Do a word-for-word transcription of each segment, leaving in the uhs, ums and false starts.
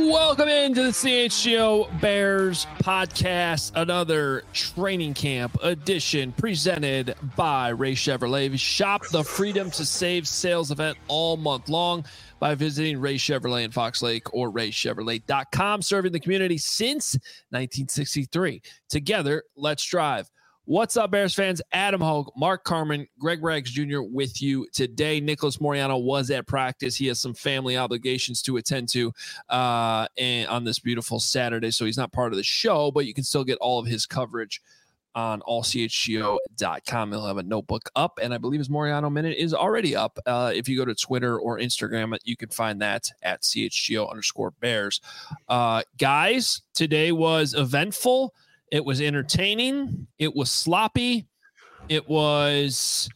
Welcome into the C H G O Bears podcast, another training camp edition presented by Ray Chevrolet. Shop the Freedom to Save sales event all month long by visiting Ray Chevrolet in Fox Lake or ray chevrolet dot com, serving the community since nineteen sixty-three. Together, let's drive. What's up, Bears fans? Adam Hogue, Mark Carman, Greg Braggs Junior with you today. Nicholas Moreano was at practice. He has some family obligations to attend to uh, and on this beautiful Saturday, so he's not part of the show, but you can still get all of his coverage on all c h g o dot com. He'll have a notebook up, and I believe his Moreano Minute is already up. Uh, if you go to Twitter or Instagram, you can find that at chgo underscore Bears. Uh, guys, today was eventful. It was entertaining. It was sloppy. It was,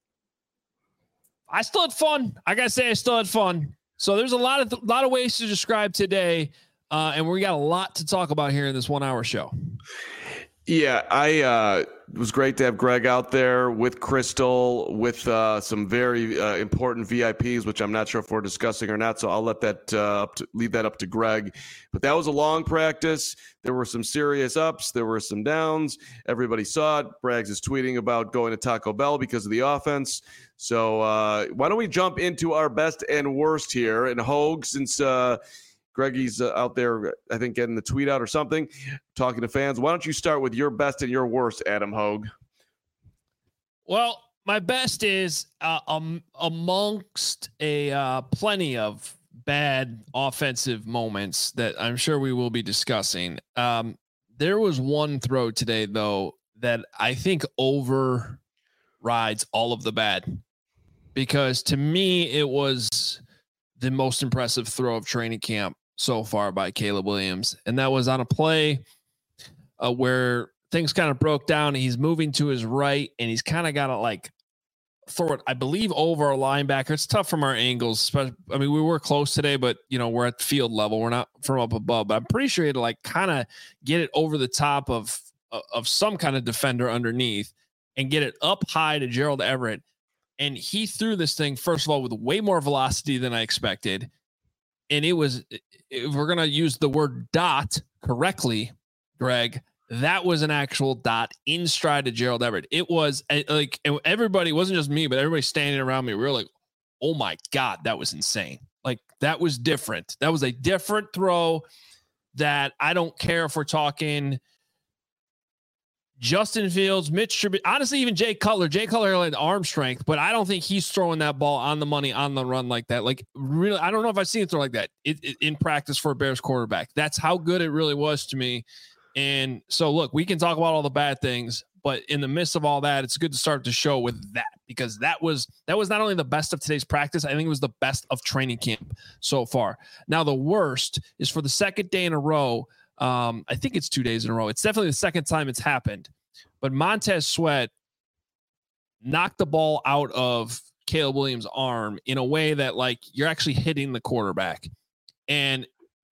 I still had fun. I got to say, I still had fun. So there's a lot of, a lot of ways to describe today. Uh, and we got a lot to talk about here in this one hour show. Yeah, I uh, it was great to have Greg out there with Crystal, with uh, some very uh, important V I Ps, which I'm not sure if we're discussing or not. So I'll let that uh, up to, leave that up to Greg. But that was a long practice. There were some serious ups. There were some downs. Everybody saw it. Braggs is tweeting about going to Taco Bell because of the offense. So uh, why don't we jump into our best and worst here? And Hogue, since uh, Greggy's uh, out there, I think, getting the tweet out or something, talking to fans. Why don't you start with your best and your worst, Adam Hogue? Well, my best is uh, um, amongst a uh, plenty of bad offensive moments that I'm sure we will be discussing. Um, there was one throw today, though, that I think overrides all of the bad, because to me, it was the most impressive throw of training camp so far by Caleb Williams. And that was on a play uh, where things kind of broke down. He's moving to his right, and he's kind of got to like throw it, I believe, over a linebacker. It's tough from our angles. I mean, we were close today, but you know, we're at field level. We're not from up above, but I'm pretty sure he had to like kind of get it over the top of, of some kind of defender underneath and get it up high to Gerald Everett. And he threw this thing, first of all, with way more velocity than I expected. And it was, if we're going to use the word dot correctly, Greg, that was an actual dot in stride to Gerald Everett. It was like, everybody, it wasn't just me, but everybody standing around me, we were like, oh my God, that was insane. Like, that was different. That was a different throw that I don't care if we're talking Justin Fields, Mitch Trubisky, honestly, even Jay Cutler. Jay Cutler had arm strength, but I don't think he's throwing that ball on the money on the run like that. Like, really, I don't know if I've seen it throw like that it, it, in practice for a Bears quarterback. That's how good it really was to me. And so, look, we can talk about all the bad things, but in the midst of all that, it's good to start the show with that, because that was that was not only the best of today's practice, I think it was the best of training camp so far. Now, the worst is for the second day in a row. Um, I think it's two days in a row. It's definitely the second time it's happened. But Montez Sweat knocked the ball out of Caleb Williams' arm in a way that, like, you're actually hitting the quarterback. And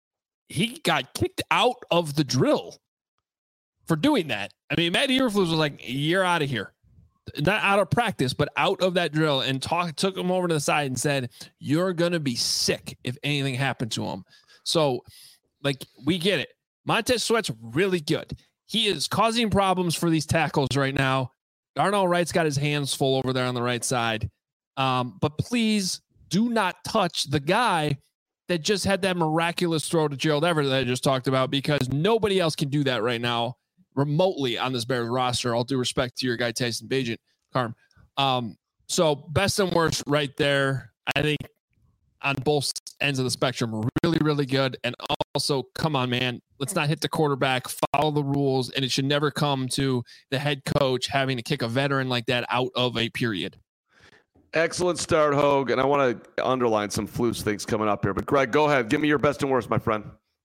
he got kicked out of the drill for doing that. I mean, Matt Eberflus was like, you're out of here. Not out of practice, but out of that drill, and talk, took him over to the side and said, you're going to be sick if anything happened to him. So, like, we get it. Montez Sweat's really good. He is causing problems for these tackles right now. Darnell Wright's got his hands full over there on the right side. Um, but please do not touch the guy that just had that miraculous throw to Gerald Everett that I just talked about, because nobody else can do that right now remotely on this Bears roster. All due respect to your guy, Tyson Bagent, Carm. Um, so best and worst right there. I think on both ends of the spectrum, really, really good. And also, come on, man, let's not hit the quarterback, follow the rules, and it should never come to the head coach having to kick a veteran like that out of a period. Excellent start, Hogue, and I want to underline some Flus things coming up here. But, Greg, go ahead. Give me your best and worst, my friend.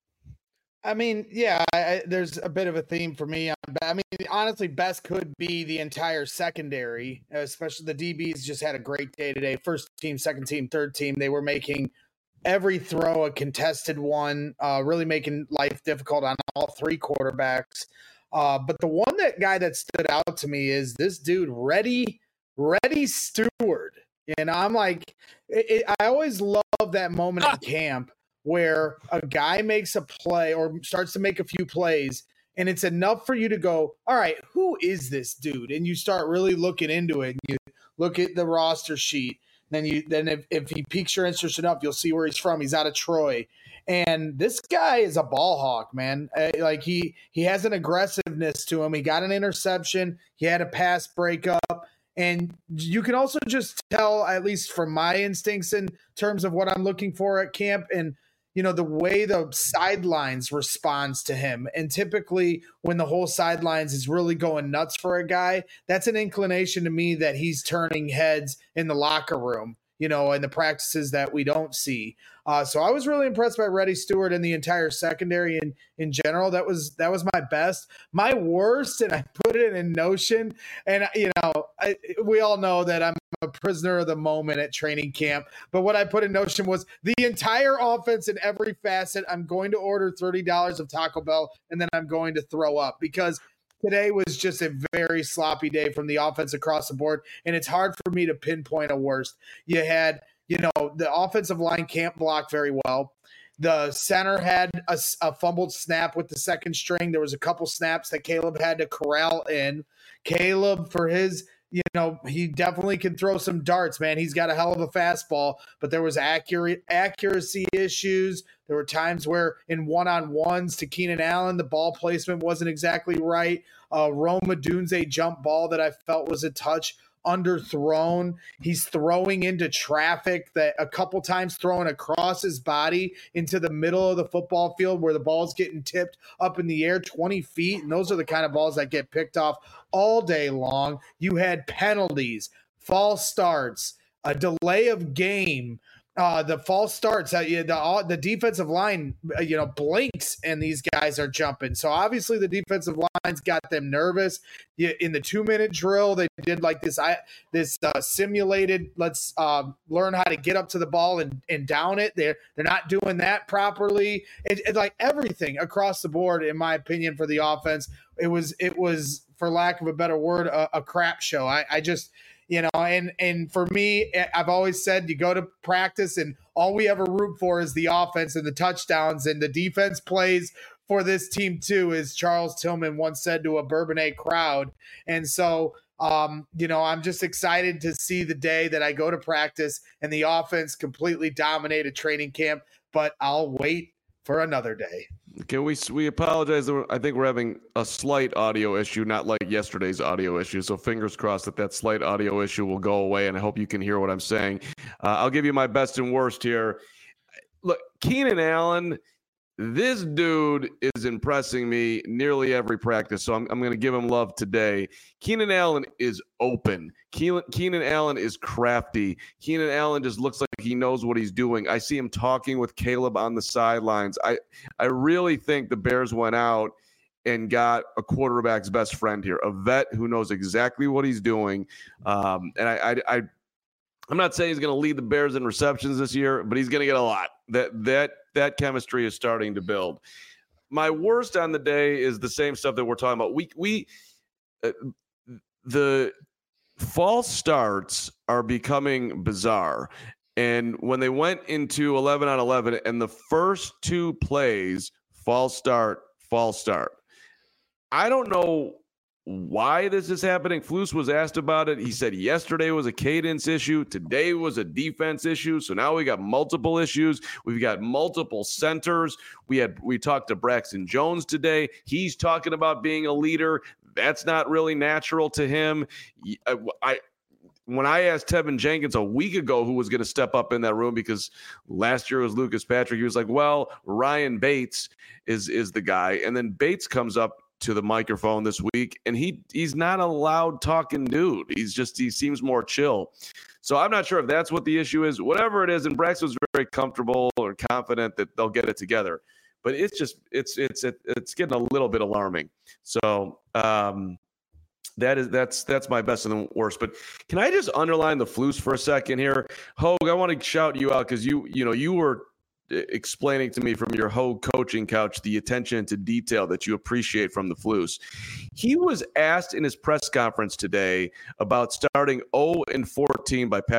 I mean, yeah, I, there's a bit of a theme for me. I mean, honestly, best could be the entire secondary, especially the D Bs just had a great day today. First team, second team, third team. They were making every throw a contested one, uh, really making life difficult on all three quarterbacks. Uh, but the one that guy that stood out to me is this dude, Reddy, Reddy Stewart. And I'm like, it, it, I always love that moment in camp where a guy makes a play or starts to make a few plays, and it's enough for you to go, all right, who is this dude? And you start really looking into it. And you look at the roster sheet. Then you then if, if he piques your interest enough, you'll see where he's from. He's out of Troy. And this guy is a ball hawk, man. Uh, like he he has an aggressiveness to him. He got an interception. He had a pass breakup. And you can also just tell, at least from my instincts in terms of what I'm looking for at camp, and you know, the way the sidelines responds to him. And typically when the whole sidelines is really going nuts for a guy, that's an inclination to me that he's turning heads in the locker room, you know, and the practices that we don't see. Uh, so I was really impressed by Reddy Stewart and the entire secondary in, in general. That was that was my best. My worst, and I put it in Notion, and, you know, I, we all know that I'm a prisoner of the moment at training camp. But what I put in Notion was the entire offense in every facet. I'm going to order thirty dollars of Taco Bell, and then I'm going to throw up, because today was just a very sloppy day from the offense across the board, and it's hard for me to pinpoint a worst. You had, you know, the offensive line can't block very well. The center had a, a fumbled snap with the second string. There was a couple snaps that Caleb had to corral in. Caleb, for his, you know, he definitely can throw some darts, man. He's got a hell of a fastball, but there was accurate accuracy issues. There were times where in one-on-ones to Keenan Allen, the ball placement wasn't exactly right. Uh, Rome Odunze jump ball that I felt was a touch underthrown. He's throwing into traffic, that a couple times throwing across his body into the middle of the football field where the ball's getting tipped up in the air twenty feet. And those are the kind of balls that get picked off all day long. You had penalties, false starts, a delay of game. Uh, the false starts, uh, the uh, the defensive line, uh, you know, blinks, and these guys are jumping. So obviously the defensive line's got them nervous. You, in the two minute drill, they did like this I, this uh, simulated. Let's uh, learn how to get up to the ball and, and down it. They're they're not doing that properly. It, it like everything across the board, in my opinion, for the offense, it was it was for lack of a better word, a, a crap show. I, I just. You know, and and for me, I've always said you go to practice and all we ever root for is the offense and the touchdowns, and the defense plays for this team too, as Charles Tillman once said to a Bourbonnais crowd. And so, um, you know, I'm just excited to see the day that I go to practice and the offense completely dominated training camp, but I'll wait for another day. Can we we apologize? I think we're having a slight audio issue, not like yesterday's audio issue. So fingers crossed that that slight audio issue will go away, and I hope you can hear what I'm saying. Uh, I'll give you my best and worst here. Look, Keenan Allen, this dude is impressing me nearly every practice, so I'm, I'm going to give him love today. Keenan Allen is open. Keenan, Keenan Allen is crafty. Keenan Allen just looks like he knows what he's doing. I see him talking with Caleb on the sidelines. I, I really think the Bears went out and got a quarterback's best friend here, a vet who knows exactly what he's doing. Um, and I, I, I, I'm not saying he's going to lead the Bears in receptions this year, but he's going to get a lot. That that that chemistry is starting to build. My worst on the day is the same stuff that we're talking about. We we uh, the false starts are becoming bizarre. And when they went into eleven on eleven and the first two plays, false start, false start. I don't know why this is happening. Flus was asked about it. He said yesterday was a cadence issue. Today was a defense issue. So now we got multiple issues. We've got multiple centers. We had we talked to Braxton Jones today. He's talking about being a leader. That's not really natural to him. I, I when I asked Tevin Jenkins a week ago who was going to step up in that room, because last year was Lucas Patrick, he was like, well, Ryan Bates is is the guy. And then Bates comes up to the microphone this week, and he he's not a loud talking dude. He's just, he seems more chill. So I'm not sure if that's what the issue is. Whatever it is, and Braxton was very comfortable or confident that they'll get it together. But it's just, it's it's it's getting a little bit alarming. So um, that is that's that's my best and the worst. But can I just underline the Flus for a second here, Hogue? I want to shout you out because you you know you were explaining to me from your Hogue coaching couch the attention to detail that you appreciate from the Flus. He was asked in his press conference today about starting oh and fourteen by Patrick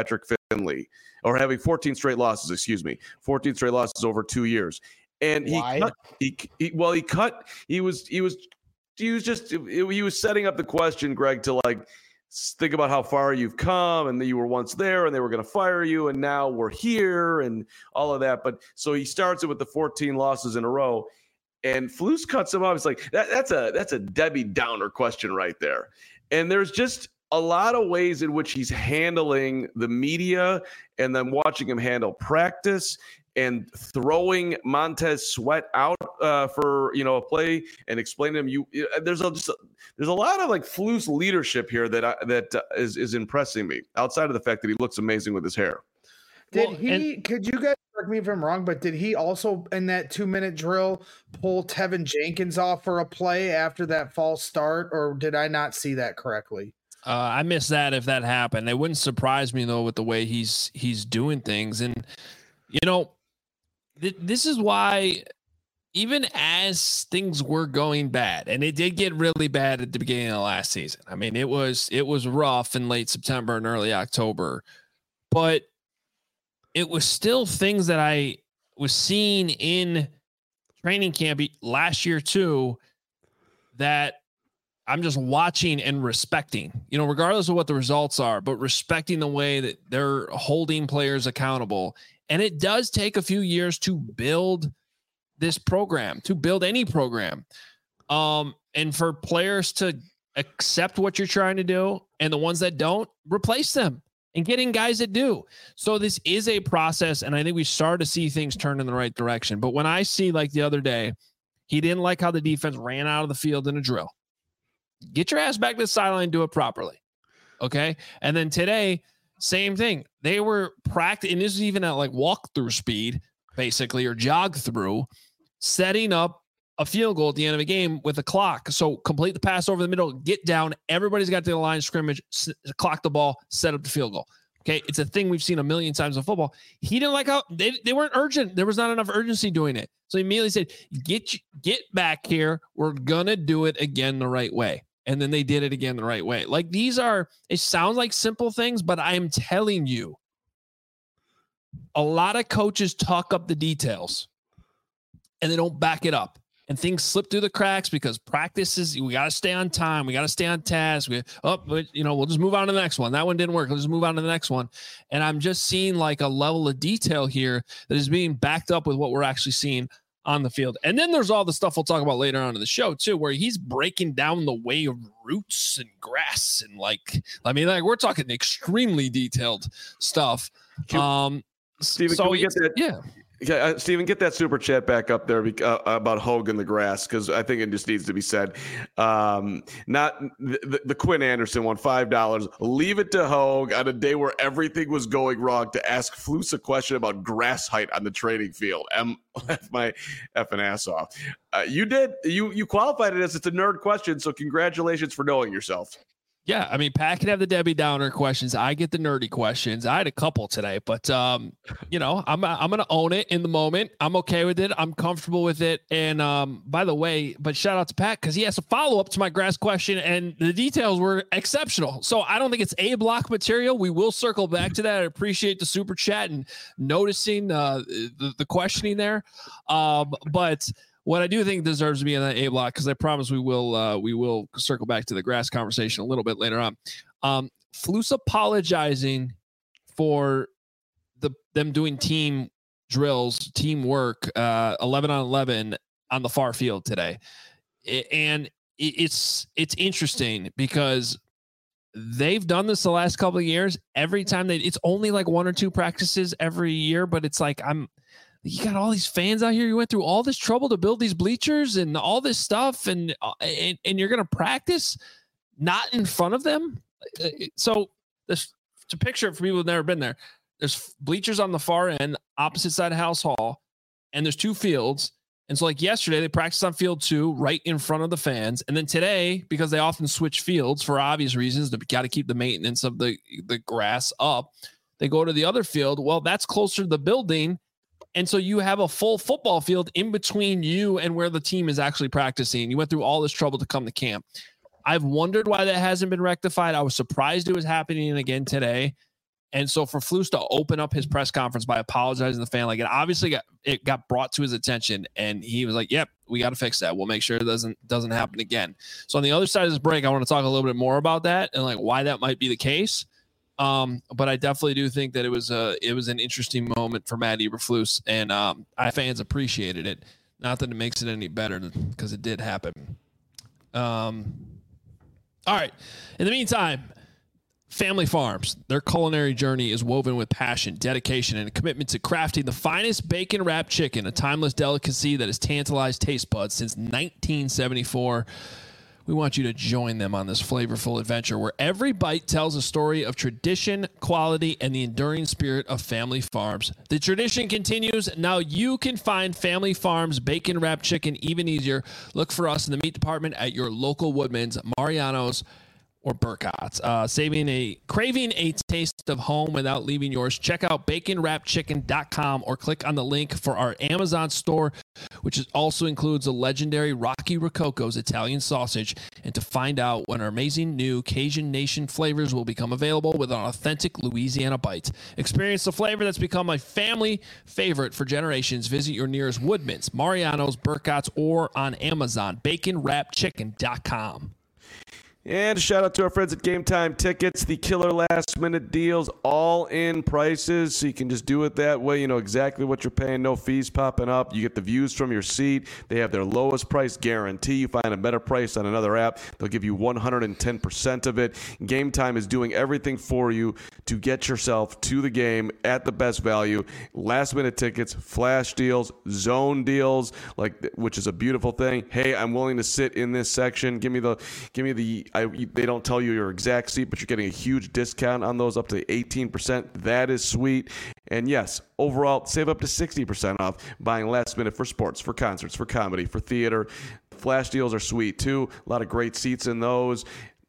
consistently, or having fourteen straight losses, excuse me, fourteen straight losses over two years. And he, Why? cut, he, he, well, he cut, he was, he was, he was just, he was setting up the question, Greg, to like, think about how far you've come and that you were once there and they were going to fire you. And now we're here and all of that. But so he starts it with the fourteen losses in a row. And Flus cuts him off. It's like, that, that's a that's a Debbie Downer question right there. And there's just a lot of ways in which he's handling the media and then watching him handle practice and throwing Montez Sweat out uh, for, you know, a play and explaining to him, you, there's a, just a, there's a lot of like Flus leadership here that I, that uh, is, is impressing me outside of the fact that he looks amazing with his hair. Did Well, he, and- could you guys correct me if I'm wrong, but did he also in that two minute drill pull Tevin Jenkins off for a play after that false start, or did I not see that correctly? Uh, I missed that if that happened. It wouldn't surprise me though with the way he's he's doing things. And you know, th- this is why even as things were going bad, and it did get really bad at the beginning of the last season. I mean, it was it was rough in late September and early October, but it was still things that I was seeing in training camp last year too that I'm just watching and respecting, you know, regardless of what the results are, but respecting the way that they're holding players accountable. And it does take a few years to build this program, to build any program. Um, and for players to accept what you're trying to do, and the ones that don't, replace them and get in guys that do. So this is a process, and I think we started to see things turn in the right direction. But when I see, like the other day, he didn't like how the defense ran out of the field in a drill. Get your ass back to the sideline, do it properly. Okay. And then today, same thing. They were practicing, and this is even at like walk through speed, basically, or jog through, setting up a field goal at the end of a game with a clock. So complete the pass over the middle, get down. Everybody's got to the line of scrimmage, s- clock the ball, set up the field goal. Okay. It's a thing we've seen a million times in football. He didn't like how they, they weren't urgent. There was not enough urgency doing it. So he immediately said, get, get back here. We're going to do it again the right way. And then they did it again the right way. Like, these are, it sounds like simple things, but I'm telling you, a lot of coaches talk up the details and they don't back it up. And things slip through the cracks because practices, we got to stay on time. We got to stay on task. We, oh, but, you know, we'll just move on to the next one. That one didn't work. Let's just move on to the next one. And I'm just seeing like a level of detail here that is being backed up with what we're actually seeing on the field. And then there's all the stuff we'll talk about later on in the show too, where he's breaking down the way of roots and grass. And like, I mean, like, we're talking extremely detailed stuff. Can, um, Steven, so can we get that? Yeah. Okay, uh, Steven, get that super chat back up there bec- uh, about Hogue and the grass, because I think it just needs to be said. Um, not the, the Quinn Anderson one, five dollars. Leave it to Hogue on a day where everything was going wrong to ask Flus a question about grass height on the training field. I'm laugh my effing ass off. Uh, you did. You you qualified it as it's a nerd question, so congratulations for knowing yourself. Yeah, I mean, Pat can have the Debbie Downer questions. I get the nerdy questions. I had a couple today, but um, you know, I'm I'm gonna own it in the moment. I'm okay with it. I'm comfortable with it. And um, by the way, but shout out to Pat because he has a follow up to my grass question, and the details were exceptional. So I don't think it's A block material. We will circle back to that. I appreciate the super chat and noticing uh, the the questioning there. Um, but. What I do think deserves to be in that A block, because I promise we will uh, we will circle back to the grass conversation a little bit later on. Um, Flus apologizing for the them doing team drills, teamwork, uh, eleven on eleven on the far field today, it, and it, it's it's interesting because they've done this the last couple of years. Every time they, it's only like one or two practices every year, but it's like I'm. You got all these fans out here. You went through all this trouble to build these bleachers and all this stuff, and and, and you're going to practice not in front of them. So this to picture for people who've never been there. There's bleachers on the far end, opposite side of House Hall, and there's two fields. And so, like yesterday, they practiced on field two, right in front of the fans. And then today, because they often switch fields for obvious reasons, they got to keep the maintenance of the the grass up. They go to the other field. Well, that's closer to the building. And so you have a full football field in between you and where the team is actually practicing. You went through all this trouble to come to camp. I've wondered why that hasn't been rectified. I was surprised it was happening again today. And so for Flus to open up his press conference by apologizing to the fan, like it obviously got it got brought to his attention, and he was like, "Yep, we got to fix that. We'll make sure it doesn't doesn't happen again." So on the other side of this break, I want to talk a little bit more about that and like why that might be the case. Um, but I definitely do think that it was a it was an interesting moment for Matt Eberflus, and um, I fans appreciated it. Not that it makes it any better because it did happen. Um, all right. In the meantime, Family Farms, their culinary journey is woven with passion, dedication, and a commitment to crafting the finest bacon-wrapped chicken, a timeless delicacy that has tantalized taste buds since nineteen seventy-four. We want you to join them on this flavorful adventure where every bite tells a story of tradition, quality, and the enduring spirit of Family Farms. The tradition continues. Now you can find Family Farms bacon-wrapped chicken even easier. Look for us in the meat department at your local Woodman's, Mariano's, or Burkott's. Uh, saving a craving a taste of home without leaving yours. Check out bacon wrapped chicken dot com or click on the link for our Amazon store, which is also includes a legendary Rocky Rococo's Italian sausage, and to find out when our amazing new Cajun Nation flavors will become available with an authentic Louisiana bite. Experience the flavor that's become a family favorite for generations. Visit your nearest Woodman's, Mariano's, Burkott's, or on Amazon. bacon wrapped chicken dot com. And a shout out to our friends at Game Time Tickets, the killer last minute deals, all in prices. So you can just do it that way. You know exactly what you're paying. No fees popping up. You get the views from your seat. They have their lowest price guarantee. You find a better price on another app, they'll give you one hundred ten percent of it. Game Time is doing everything for you to get yourself to the game at the best value. Last minute tickets, flash deals, zone deals, like which is a beautiful thing. Hey, I'm willing to sit in this section. Give me the give me the I, they don't tell you your exact seat, but you're getting a huge discount on those, up to eighteen percent. That is sweet. And yes, overall, save up to sixty percent off buying last minute for sports, for concerts, for comedy, for theater. Flash deals are sweet too. A lot of great seats in those.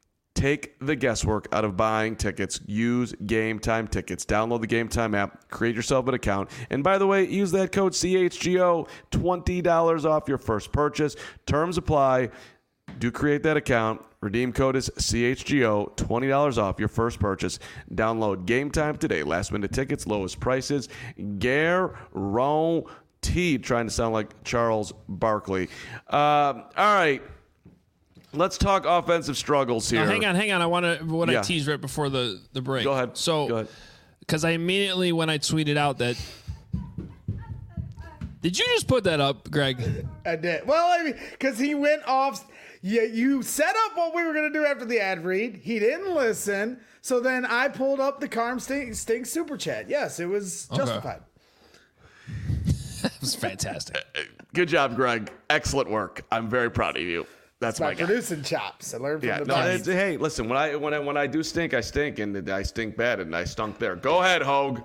Take the guesswork out of buying tickets. Use Game Time Tickets. Download the Game Time app. Create yourself an account. And by the way, use that code C H G O. twenty dollars off your first purchase. Terms apply. Do create that account. Redeem code is C H G O. twenty dollars off your first purchase. Download Game Time today. Last minute tickets, lowest prices. Guaranteed. Trying to sound like Charles Barkley. Um, all right. Let's talk offensive struggles here. Now, hang on, hang on. I want to what yeah. I teased right before the, the break. Go ahead. So, because I immediately, when I tweeted out that, did you just put that up, Greg? I did. Well, I mean, because he went off. Yeah, you set up what we were going to do after the ad read. He didn't listen. So then I pulled up the Carm Stink, Stink Super Chat. Yes, it was justified. Okay. That was fantastic. Good job, Greg. Excellent work. I'm very proud of you. That's my, my producing chops. I learned from yeah, the no, best. Hey, listen, when I when I when I do stink, I stink, and I stink bad, and I stunk there. Go ahead, Hogue.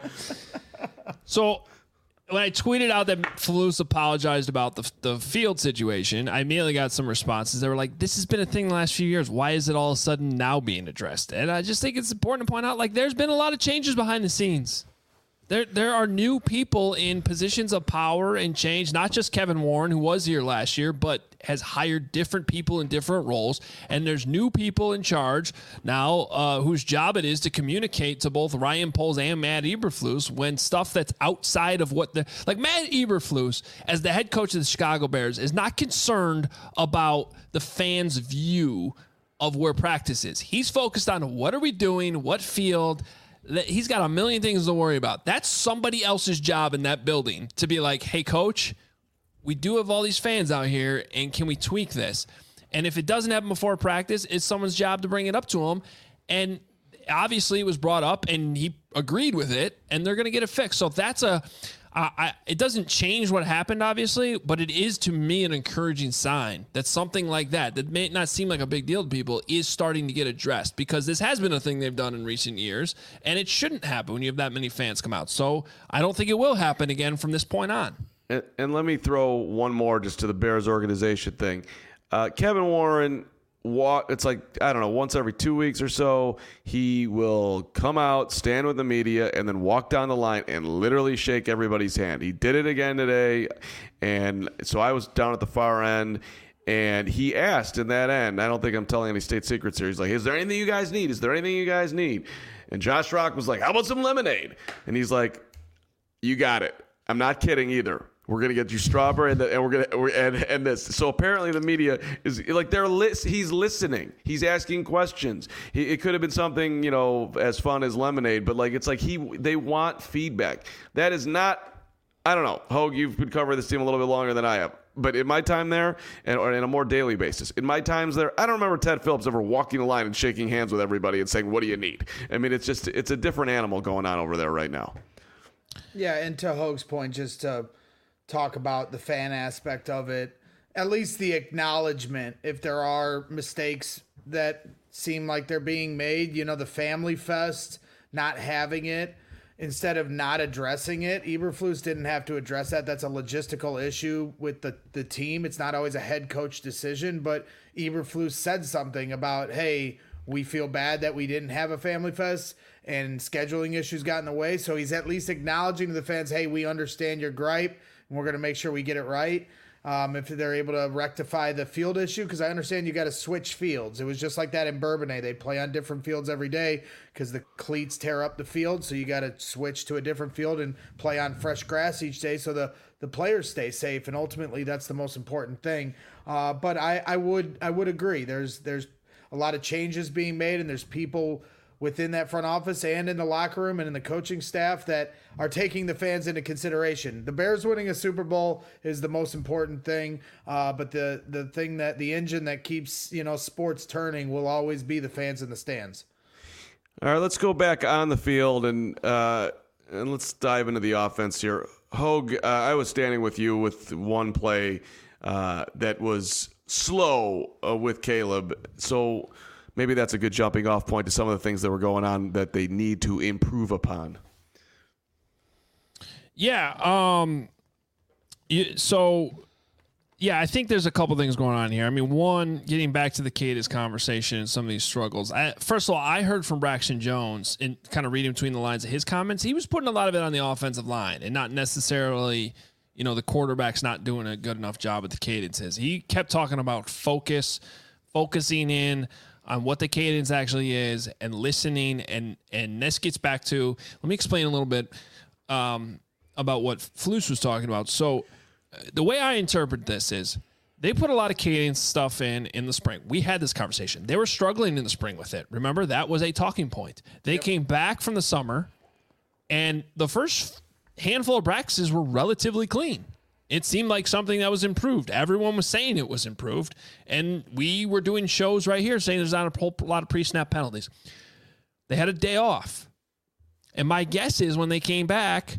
So when I tweeted out that Flus apologized about the the field situation, I immediately got some responses. They were like, "This has been a thing the last few years. Why is it all of a sudden now being addressed?" And I just think it's important to point out, like, there's been a lot of changes behind the scenes. There, there are new people in positions of power and change, not just Kevin Warren, who was here last year, but has hired different people in different roles. And there's new people in charge now uh, whose job it is to communicate to both Ryan Poles and Matt Eberflus when stuff that's outside of what the, like Matt Eberflus, as the head coach of the Chicago Bears, is not concerned about the fans' view of where practice is. He's focused on what are we doing, what field. He's got a million things to worry about. That's somebody else's job in that building to be like, hey, coach, we do have all these fans out here, and can we tweak this? And if it doesn't happen before practice, it's someone's job to bring it up to him. And obviously it was brought up, and he agreed with it, and they're going to get it fixed. So that's a uh, I, it doesn't change what happened, obviously, but it is, to me, an encouraging sign that something like that, that may not seem like a big deal to people, is starting to get addressed, because this has been a thing they've done in recent years, and it shouldn't happen when you have that many fans come out. So I don't think it will happen again from this point on. And, and let me throw one more just to the Bears organization thing. Uh, Kevin Warren, walk, it's like, I don't know, once every two weeks or so, he will come out, stand with the media, and then walk down the line and literally shake everybody's hand. He did it again today, and so I was down at the far end, and he asked in that end, I don't think I'm telling any state secrets here, he's like, is there anything you guys need? Is there anything you guys need? And Josh Rock was like, how about some lemonade? And he's like, you got it. I'm not kidding either. We're gonna get you strawberry, and, the, and we're gonna we're, and and this. So apparently the media is like they're lis- he's listening. He's asking questions. He, it could have been something, you know, as fun as lemonade, but like it's like he they want feedback. That is not. I don't know, Hogue. You've been covering this team a little bit longer than I have, but in my time there, and or on a more daily basis, in my times there, I don't remember Ted Phillips ever walking the line and shaking hands with everybody and saying, "What do you need?" I mean, it's just it's a different animal going on over there right now. Yeah, and to Hogue's point, just to talk about the fan aspect of it, at least the acknowledgement if there are mistakes that seem like they're being made, you know, the Family Fest, not having it, instead of not addressing it. Eberflus didn't have to address that. That's a logistical issue with the, the team. It's not always a head coach decision, but Eberflus said something about, hey, we feel bad that we didn't have a Family Fest and scheduling issues got in the way. So he's at least acknowledging to the fans, hey, we understand your gripe, and we're going to make sure we get it right. Um, if they're able to rectify the field issue, because I understand you got to switch fields. It was just like that in Bourbonnais. They play on different fields every day because the cleats tear up the field. So you got to switch to a different field and play on fresh grass each day so the, the players stay safe. And ultimately, that's the most important thing. Uh, but I, I would I would agree. There's there's a lot of changes being made, and there's people within that front office and in the locker room and in the coaching staff that are taking the fans into consideration. The Bears winning a Super Bowl is the most important thing, uh, but the the thing that the engine that keeps, you know, sports turning will always be the fans in the stands. All right, let's go back on the field and uh, and let's dive into the offense here. Hogue, uh, I was standing with you with one play uh, that was slow uh, with Caleb, so maybe that's a good jumping off point to some of the things that were going on that they need to improve upon. Yeah. Um, you, so, yeah, I think there's a couple things going on here. I mean, one, getting back to the Cadence conversation and some of these struggles. I, first of all, I heard from Braxton Jones and kind of reading between the lines of his comments. He was putting a lot of it on the offensive line and not necessarily, you know, the quarterback's not doing a good enough job with the cadences. He kept talking about focus, focusing in on what the cadence actually is and listening. And, and this gets back to, let me explain a little bit um, about what Flus was talking about. So uh, the way I interpret this is they put a lot of cadence stuff in in the spring. We had this conversation. They were struggling in the spring with it. Remember, that was a talking point. They yep. came back from the summer and the first handful of practices were relatively clean. It seemed like something that was improved. Everyone was saying it was improved. And we were doing shows right here saying there's not a whole lot of pre-snap penalties. They had a day off. And my guess is when they came back,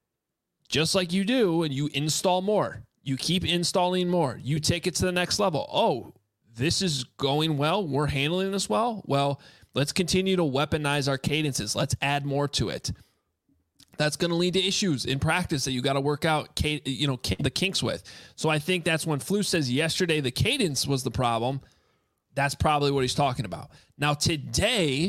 just like you do, and you install more, you keep installing more, you take it to the next level. Oh, this is going well. We're handling this well. Well, let's continue to weaponize our cadences. Let's add more to it. That's going to lead to issues in practice that you got to work out, you know, the kinks with. So I think that's when Flus says yesterday the cadence was the problem. That's probably what he's talking about. Now today,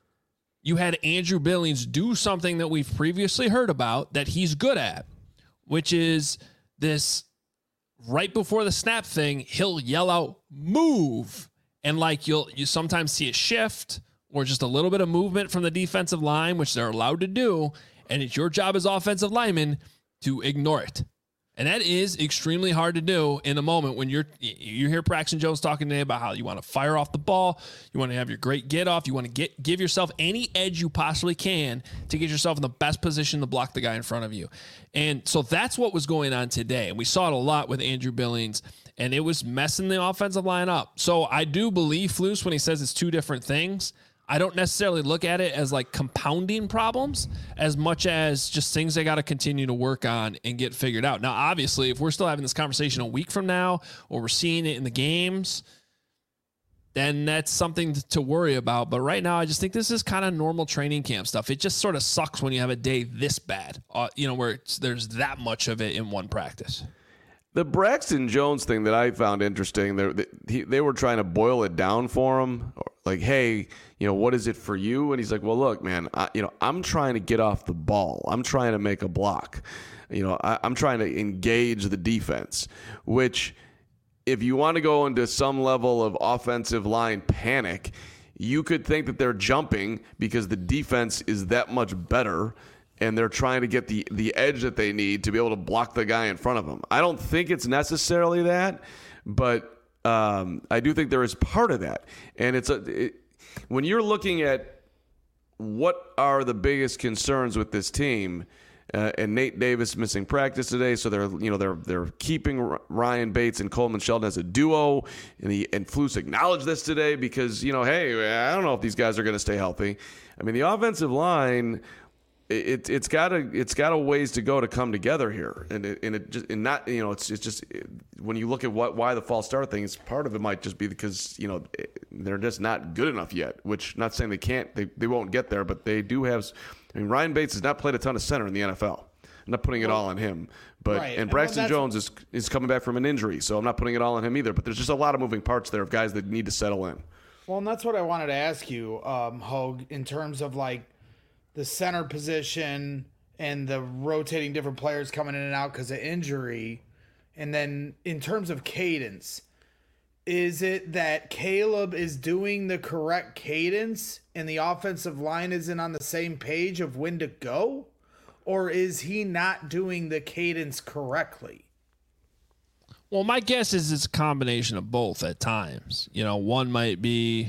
you had Andrew Billings do something that we've previously heard about that he's good at, which is this right before the snap thing. He'll yell out "move," and like you'll you sometimes see a shift or just a little bit of movement from the defensive line, which they're allowed to do. And it's your job as offensive lineman to ignore it. And that is extremely hard to do in a moment when you're, you hear Braxton Jones talking today about how you want to fire off the ball. You want to have your great get off. You want to get, give yourself any edge you possibly can to get yourself in the best position to block the guy in front of you. And so that's what was going on today. And we saw it a lot with Andrew Billings, and it was messing the offensive line up. So I do believe Flus when he says it's two different things. I don't necessarily look at it as like compounding problems as much as just things they got to continue to work on and get figured out. Now, obviously, if we're still having this conversation a week from now or we're seeing it in the games, then that's something to worry about. But right now, I just think this is kind of normal training camp stuff. It just sort of sucks when you have a day this bad, uh, you know, where it's, there's that much of it in one practice. The Braxton Jones thing that I found interesting, they, they, they were trying to boil it down for him. Like, hey, you know, what is it for you? And he's like, well, look, man, I, you know, I'm trying to get off the ball. I'm trying to make a block. You know, I, I'm trying to engage the defense, which if you want to go into some level of offensive line panic, you could think that they're jumping because the defense is that much better and they're trying to get the, the edge that they need to be able to block the guy in front of them. I don't think it's necessarily that, but um, I do think there is part of that. And it's a it, when you're looking at what are the biggest concerns with this team, uh, and Nate Davis missing practice today, so they're you know they're they're keeping Ryan Bates and Coleman Shelton as a duo, and he and Flus acknowledged this today because you know hey I don't know if these guys are going to stay healthy. I mean the offensive line. It, it's got a it's got a ways to go to come together here, and it, and it just and not you know it's it's just it, when you look at what why the false start thing is, part of it might just be because you know they're just not good enough yet. Which not saying they can't they, they won't get there, but they do have. I mean Ryan Bates has not played a ton of center in the N F L. I'm not putting it all on him, but right. and Braxton well, Jones is is coming back from an injury, so I'm not putting it all on him either. But there's just a lot of moving parts there of guys that need to settle in. Well, and that's what I wanted to ask you, um, Hogue, in terms of like the center position and the rotating different players coming in and out because of injury. And then in terms of cadence, is it that Caleb is doing the correct cadence and the offensive line isn't on the same page of when to go? Or is he not doing the cadence correctly? Well, my guess is it's a combination of both at times. You know, one might be,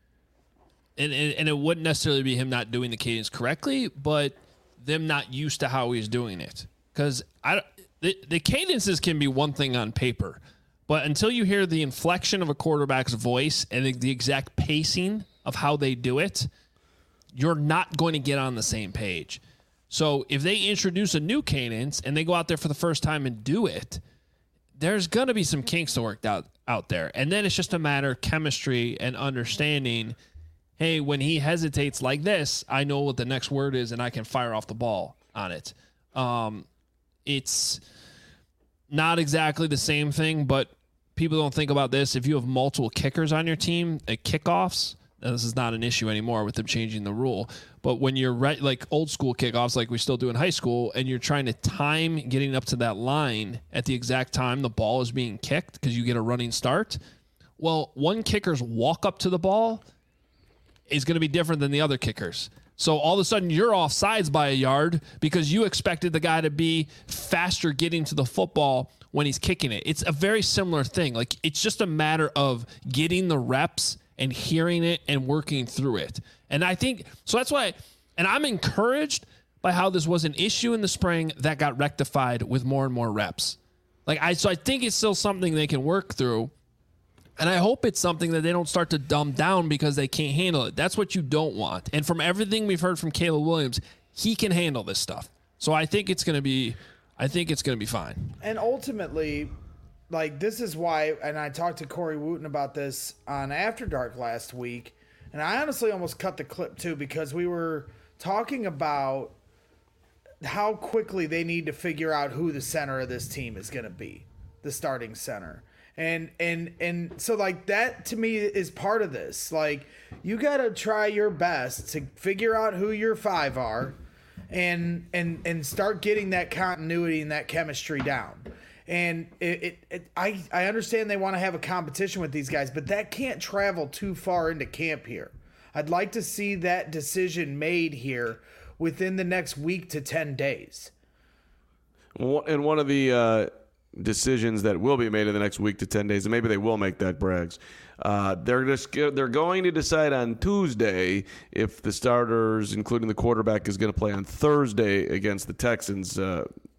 and, and, and it wouldn't necessarily be him not doing the cadence correctly, but them not used to how he's doing it. Because I, the, the cadences can be one thing on paper, but until you hear the inflection of a quarterback's voice and the, the exact pacing of how they do it, you're not going to get on the same page. So if they introduce a new cadence and they go out there for the first time and do it, there's going to be some kinks to work out, out there. And then it's just a matter of chemistry and understanding, hey, when he hesitates like this, I know what the next word is and I can fire off the ball on it. Um, it's not exactly the same thing, but people don't think about this. If you have multiple kickers on your team at kickoffs, this is not an issue anymore with them changing the rule. But when you're right, like old school kickoffs, like we still do in high school, and you're trying to time getting up to that line at the exact time the ball is being kicked because you get a running start. Well, one kicker's walk up to the ball is going to be different than the other kickers. So all of a sudden you're off sides by a yard because you expected the guy to be faster getting to the football when he's kicking it. It's a very similar thing. Like it's just a matter of getting the reps and hearing it and working through it. And I think, so that's why, and I'm encouraged by how this was an issue in the spring that got rectified with more and more reps. Like I, so I think it's still something they can work through. And I hope it's something that they don't start to dumb down because they can't handle it. That's what you don't want. And from everything we've heard from Caleb Williams, he can handle this stuff. So I think it's going to be, I think it's going to be fine. And ultimately, like this is why, and I talked to Corey Wooten about this on After Dark last week, and I honestly almost cut the clip too because we were talking about how quickly they need to figure out who the center of this team is going to be, the starting center. And and and so like that to me is part of this. Like you got to try your best to figure out who your five are and and and start getting that continuity and that chemistry down. And it, it, it I I understand they want to have a competition with these guys, but that can't travel too far into camp here. I'd like to see that decision made here within the next week to ten days. And one of the uh decisions that will be made in the next week to ten days, and maybe they will make that, Braggs. Uh, they're just they're going to decide on Tuesday if the starters, including the quarterback, is going to play on Thursday against the Texans. Uh,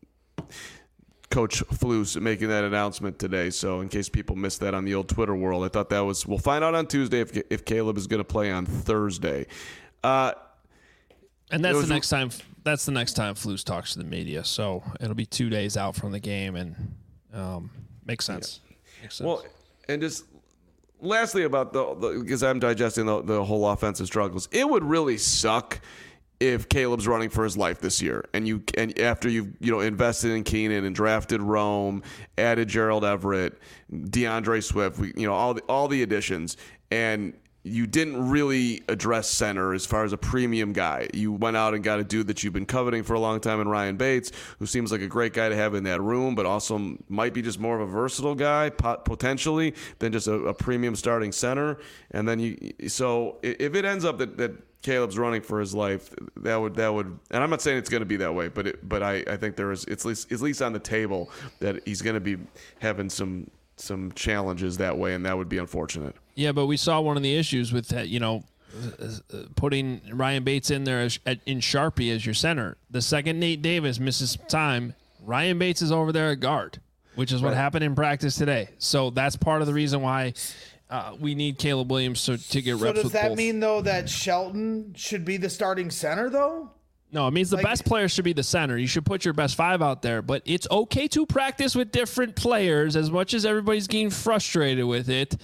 Coach Flus making that announcement today. So in case people missed that on the old Twitter world, I thought that was we'll find out on Tuesday if if Caleb is going to play on Thursday. Uh, and that's was, the next time. That's the next time Flus talks to the media. So it'll be two days out from the game and. Um, makes sense. Yeah. Makes sense. Well, and just lastly about the, because I'm digesting the, the whole offensive struggles, it would really suck if Caleb's running for his life this year, and you and after you've you know invested in Keenan and drafted Rome, added Gerald Everett, DeAndre Swift, we, you know all the all the additions, and you didn't really address center as far as a premium guy. You went out and got a dude that you've been coveting for a long time in Ryan Bates, who seems like a great guy to have in that room, but also might be just more of a versatile guy potentially than just a, a premium starting center. And then you, so if it ends up that, that Caleb's running for his life, that would that would, and I'm not saying it's going to be that way, but it, but I, I think there is it's at least, at least on the table that he's going to be having some some challenges that way, and that would be unfortunate. Yeah, but we saw one of the issues with that, you know, putting Ryan Bates in there as, in Sharpie as your center. The second Nate Davis misses time, Ryan Bates is over there at guard, which is what right. happened in practice today. So that's part of the reason why uh, we need Caleb Williams to, to get so reps with both. So does that mean, though, that Shelton should be the starting center, though? No, it means the like, best player should be the center. You should put your best five out there, but it's okay to practice with different players as much as everybody's getting frustrated with it.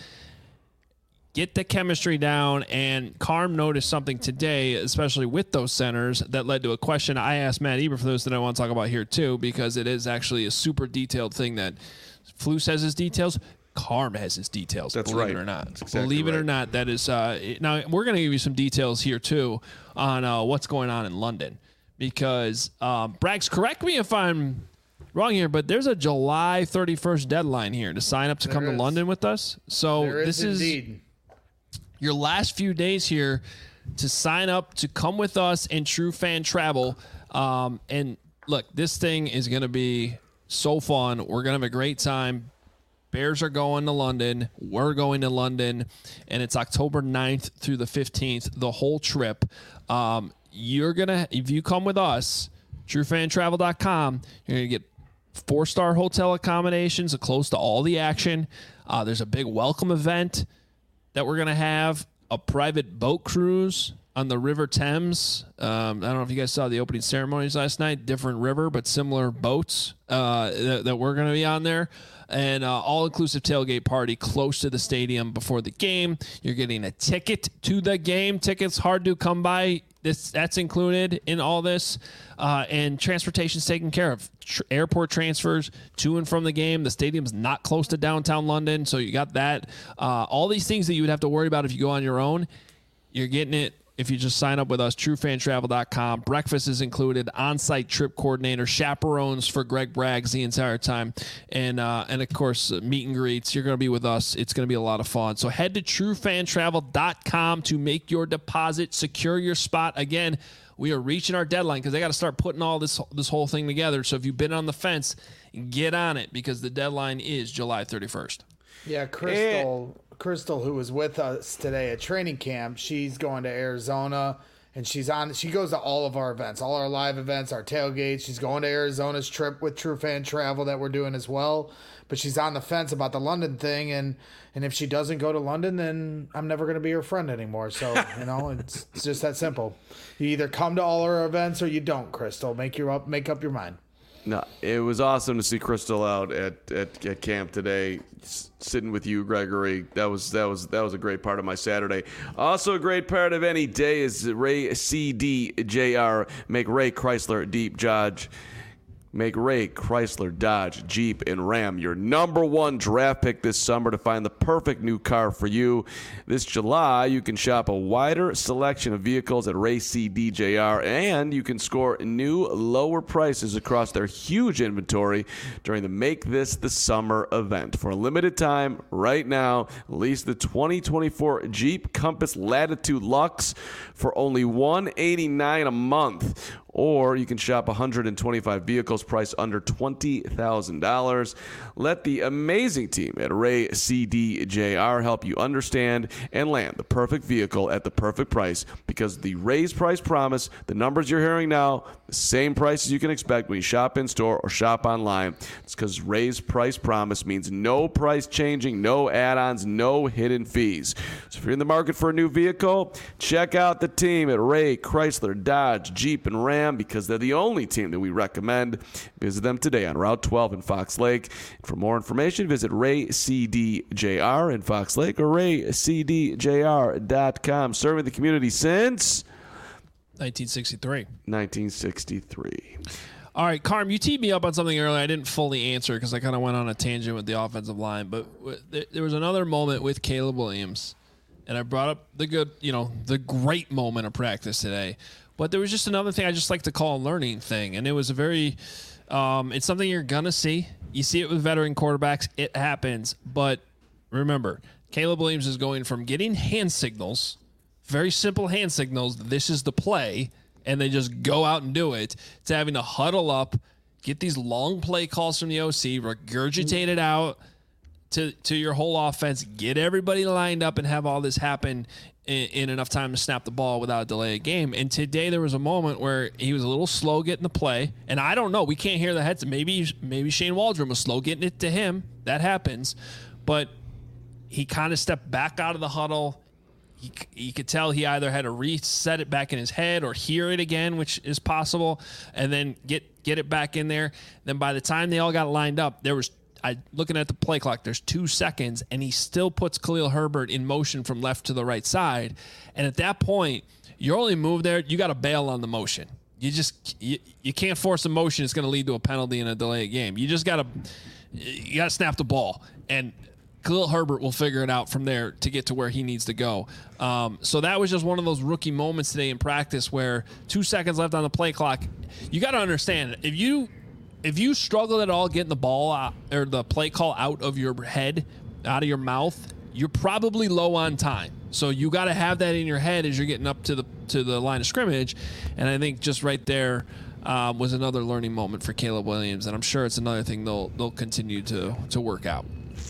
Get the chemistry down, and Carm noticed something today, especially with those centers, that led to a question I asked Matt Eber for those that I want to talk about here too, because it is actually a super detailed thing that Flus has his details. Carm has his details. That's believe right. it or not. Exactly believe it right. or not, that is uh, now we're going to give you some details here too on uh, what's going on in London, because um, Braggs, correct me if I'm wrong here, but there's a July thirty-first deadline here to sign up to there come is. to London with us. So there this is, is indeed. your last few days here to sign up to come with us in True Fan Travel. Um, and look, this thing is going to be so fun. We're going to have a great time. Bears are going to London. We're going to London. And it's October ninth through the fifteenth, the whole trip. Um, you're going to, if you come with us, true fan travel dot com, you're going to get four-star hotel accommodations close to all the action. Uh, there's a big welcome event that we're going to have, a private boat cruise on the River Thames. Um, I don't know if you guys saw the opening ceremonies last night, different river, but similar boats uh, that, that we're going to be on there. And uh, all-inclusive tailgate party close to the stadium before the game. You're getting a ticket to the game. Tickets hard to come by. This That's included in all this. Uh, and transportation's taken care of. Tr- airport transfers to and from the game. The stadium's not close to downtown London, so you got that. Uh, all these things that you would have to worry about if you go on your own, you're getting it if you just sign up with us, true fan travel dot com. Breakfast is included, on-site trip coordinator, chaperones for Greg Braggs the entire time, and uh, and of course, uh, meet and greets. You're going to be with us. It's going to be a lot of fun. So head to true fan travel dot com to make your deposit, secure your spot. Again, we are reaching our deadline because they got to start putting all this this whole thing together. So if you've been on the fence, get on it because the deadline is July thirty-first. Yeah, Crystal... It- Crystal, who was with us today at training camp, she's going to Arizona, and she's on. She goes to all of our events, all our live events, our tailgates. She's going to Arizona's trip with True Fan Travel that we're doing as well. But she's on the fence about the London thing, and and if she doesn't go to London, then I'm never going to be her friend anymore. So you know, it's, it's just that simple. You either come to all our events or you don't. Crystal, make your up, make up your mind. No, it was awesome to see Crystal out at, at, at camp today, sitting with you, Gregory. That was that was that was a great part of my Saturday. Also, a great part of any day is Ray C D J R. Make Ray Chrysler Deep Dodge. Make Ray Chrysler Dodge Jeep and Ram your number one draft pick this summer to find the perfect new car for you. This July, you can shop a wider selection of vehicles at Ray C D J R, and you can score new lower prices across their huge inventory during the Make This the Summer event. For a limited time, right now, lease the twenty twenty-four Jeep Compass Latitude Luxe for only one hundred eighty-nine dollars a month. Or you can shop one hundred twenty-five vehicles priced under twenty thousand dollars. Let the amazing team at Ray C D J R help you understand and land the perfect vehicle at the perfect price, because the Ray's price promise, the numbers you're hearing now, the same prices you can expect when you shop in store or shop online. It's because Ray's price promise means no price changing, no add-ons, no hidden fees. So if you're in the market for a new vehicle, check out the team at Ray Chrysler Dodge Jeep and Ram, because they're the only team that we recommend. Visit them today on Route twelve in Fox Lake. For more information, visit Ray C D J R in Fox Lake or ray c d j r dot com. Serving the community since nineteen sixty-three. nineteen sixty-three. All right, Carm, you teed me up on something earlier. I didn't fully answer because I kind of went on a tangent with the offensive line, but there was another moment with Caleb Williams and I brought up the good, you know, the great moment of practice today. But there was just another thing I just like to call a learning thing, and it was a very, um, it's something you're gonna see. You see it with veteran quarterbacks. It happens, but remember, Caleb Williams is going from getting hand signals, very simple hand signals, this is the play, and they just go out and do it, to having to huddle up, get these long play calls from the O C, regurgitate it out to, to your whole offense, get everybody lined up and have all this happen in, in enough time to snap the ball without a delay of game. And today there was a moment where he was a little slow getting the play, and I don't know, we can't hear the heads. Maybe, maybe Shane Waldron was slow getting it to him. That happens. But he kind of stepped back out of the huddle. He, you could tell he either had to reset it back in his head or hear it again, which is possible, and then get get it back in there. Then by the time they all got lined up, there was, I looking at the play clock, there's two seconds, and he still puts Khalil Herbert in motion from left to the right side. And at that point, your only move there, you got to bail on the motion. You just you, you can't force a motion. It's going to lead to a penalty and a delay of game. You just got to you got to snap the ball, and Khalil Herbert will figure it out from there to get to where he needs to go. Um, so that was just one of those rookie moments today in practice where two seconds left on the play clock. You got to understand, if you if you struggle at all getting the ball out, or the play call out of your head, out of your mouth, you're probably low on time. So you got to have that in your head as you're getting up to the to the line of scrimmage. And I think just right there um, was another learning moment for Caleb Williams, and I'm sure it's another thing they'll they'll continue to to work out.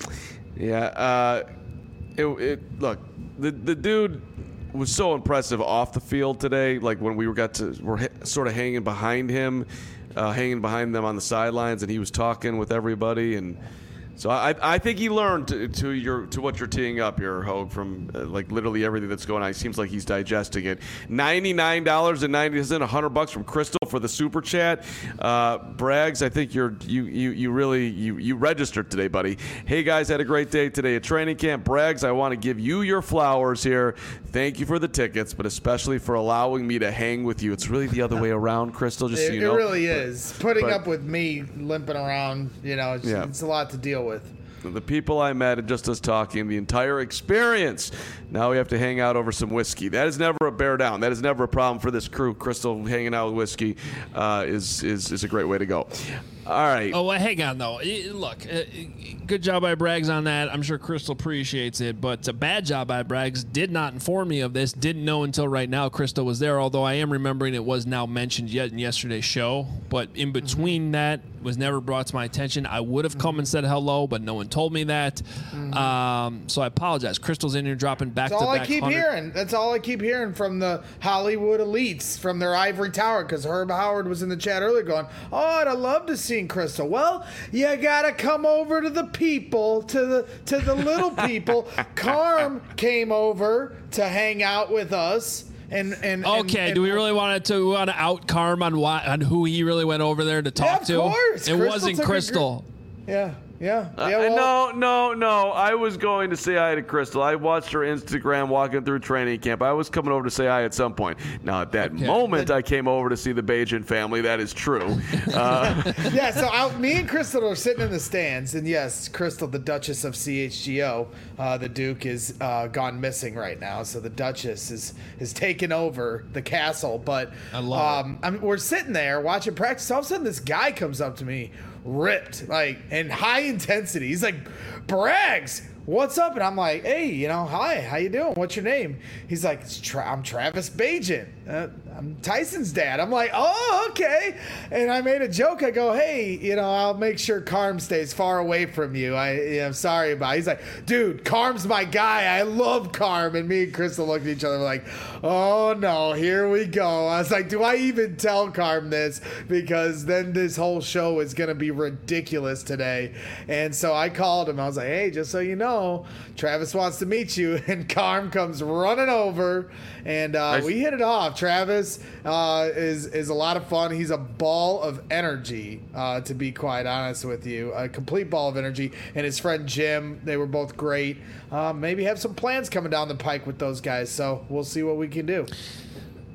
Yeah, uh, it, it look, the the dude was so impressive off the field today. Like when we were got to, we're ha- sort of hanging behind him, uh, hanging behind them on the sidelines, and he was talking with everybody. And so I I think he learned to, to your to what you're teeing up here, Hogue, from uh, like literally everything that's going on. It seems like he's digesting it. ninety-nine dollars and ninety cents, one hundred bucks from Crystal for the super chat. Uh, Braggs, I think you're you you you really you you registered today, buddy. Hey guys, had a great day today at training camp. Braggs, I want to give you your flowers here. Thank you for the tickets, but especially for allowing me to hang with you. It's really the other way around, Crystal. Just it, so you it know, really but, is. Putting but, up with me limping around, you know, it's, yeah. it's a lot to deal with. The people I met and just us talking, the entire experience. Now we have to hang out over some whiskey. That is never a bear down. That is never a problem for this crew. Crystal hanging out with whiskey uh, is, is is a great way to go. All right. Oh, well, hang on, though. Look, uh, good job by Braggs on that. I'm sure Crystal appreciates it, but a bad job by Braggs. Did not inform me of this. Didn't know until right now Crystal was there, although I am remembering it was now mentioned yet in yesterday's show. But in between mm-hmm. that, was never brought to my attention. I would have come and said hello, but no one told me that. Mm-hmm. Um, so I apologize. Crystal's in here dropping back That's to all back. I keep one hundred hearing. That's all I keep hearing from the Hollywood elites, from their ivory tower, because Herb Howard was in the chat earlier going, oh, I'd have loved to see Crystal. Well, you gotta come over to the people, to the to the little people. Carm came over to hang out with us. And, and okay, and, and, do we really want to want to out Carm on why on who he really went over there to talk yeah, of to? Course. It Crystal wasn't Crystal. Gr- yeah. Yeah. Uh, yeah well, no, no, no. I was going to say hi to Crystal. I watched her Instagram walking through training camp. I was coming over to say hi at some point. Now, at that okay. moment, but, I came over to see the Bajan family. That is true. Uh, yeah, so I, me and Crystal are sitting in the stands. And yes, Crystal, the Duchess of C H G O, uh, the Duke, is uh, gone missing right now. So the Duchess is is taking over the castle. But I love um, I mean, we're sitting there watching practice. All of a sudden, this guy comes up to me, ripped, like, in high intensity. He's like, Braggs, what's up? And I'm like, hey, you know, hi, how you doing? What's your name? He's like, it's Tra- I'm Travis Bajan. Uh, I'm Tyson's dad. I'm like, oh, okay. And I made a joke. I go, hey, you know, I'll make sure Carm stays far away from you. I, you know, I'm sorry about it. He's like, dude, Carm's my guy. I love Carm. And me and Crystal looked at each other like, oh, no, here we go. I was like, do I even tell Carm this? Because then this whole show is going to be ridiculous today. And so I called him. I was like, hey, just so you know, Travis wants to meet you. And Carm comes running over. And uh, nice. We hit it off. Travis uh, is is a lot of fun. He's a ball of energy, uh, to be quite honest with you. A complete ball of energy. And his friend Jim, they were both great. Uh, maybe have some plans coming down the pike with those guys. So we'll see what we can do.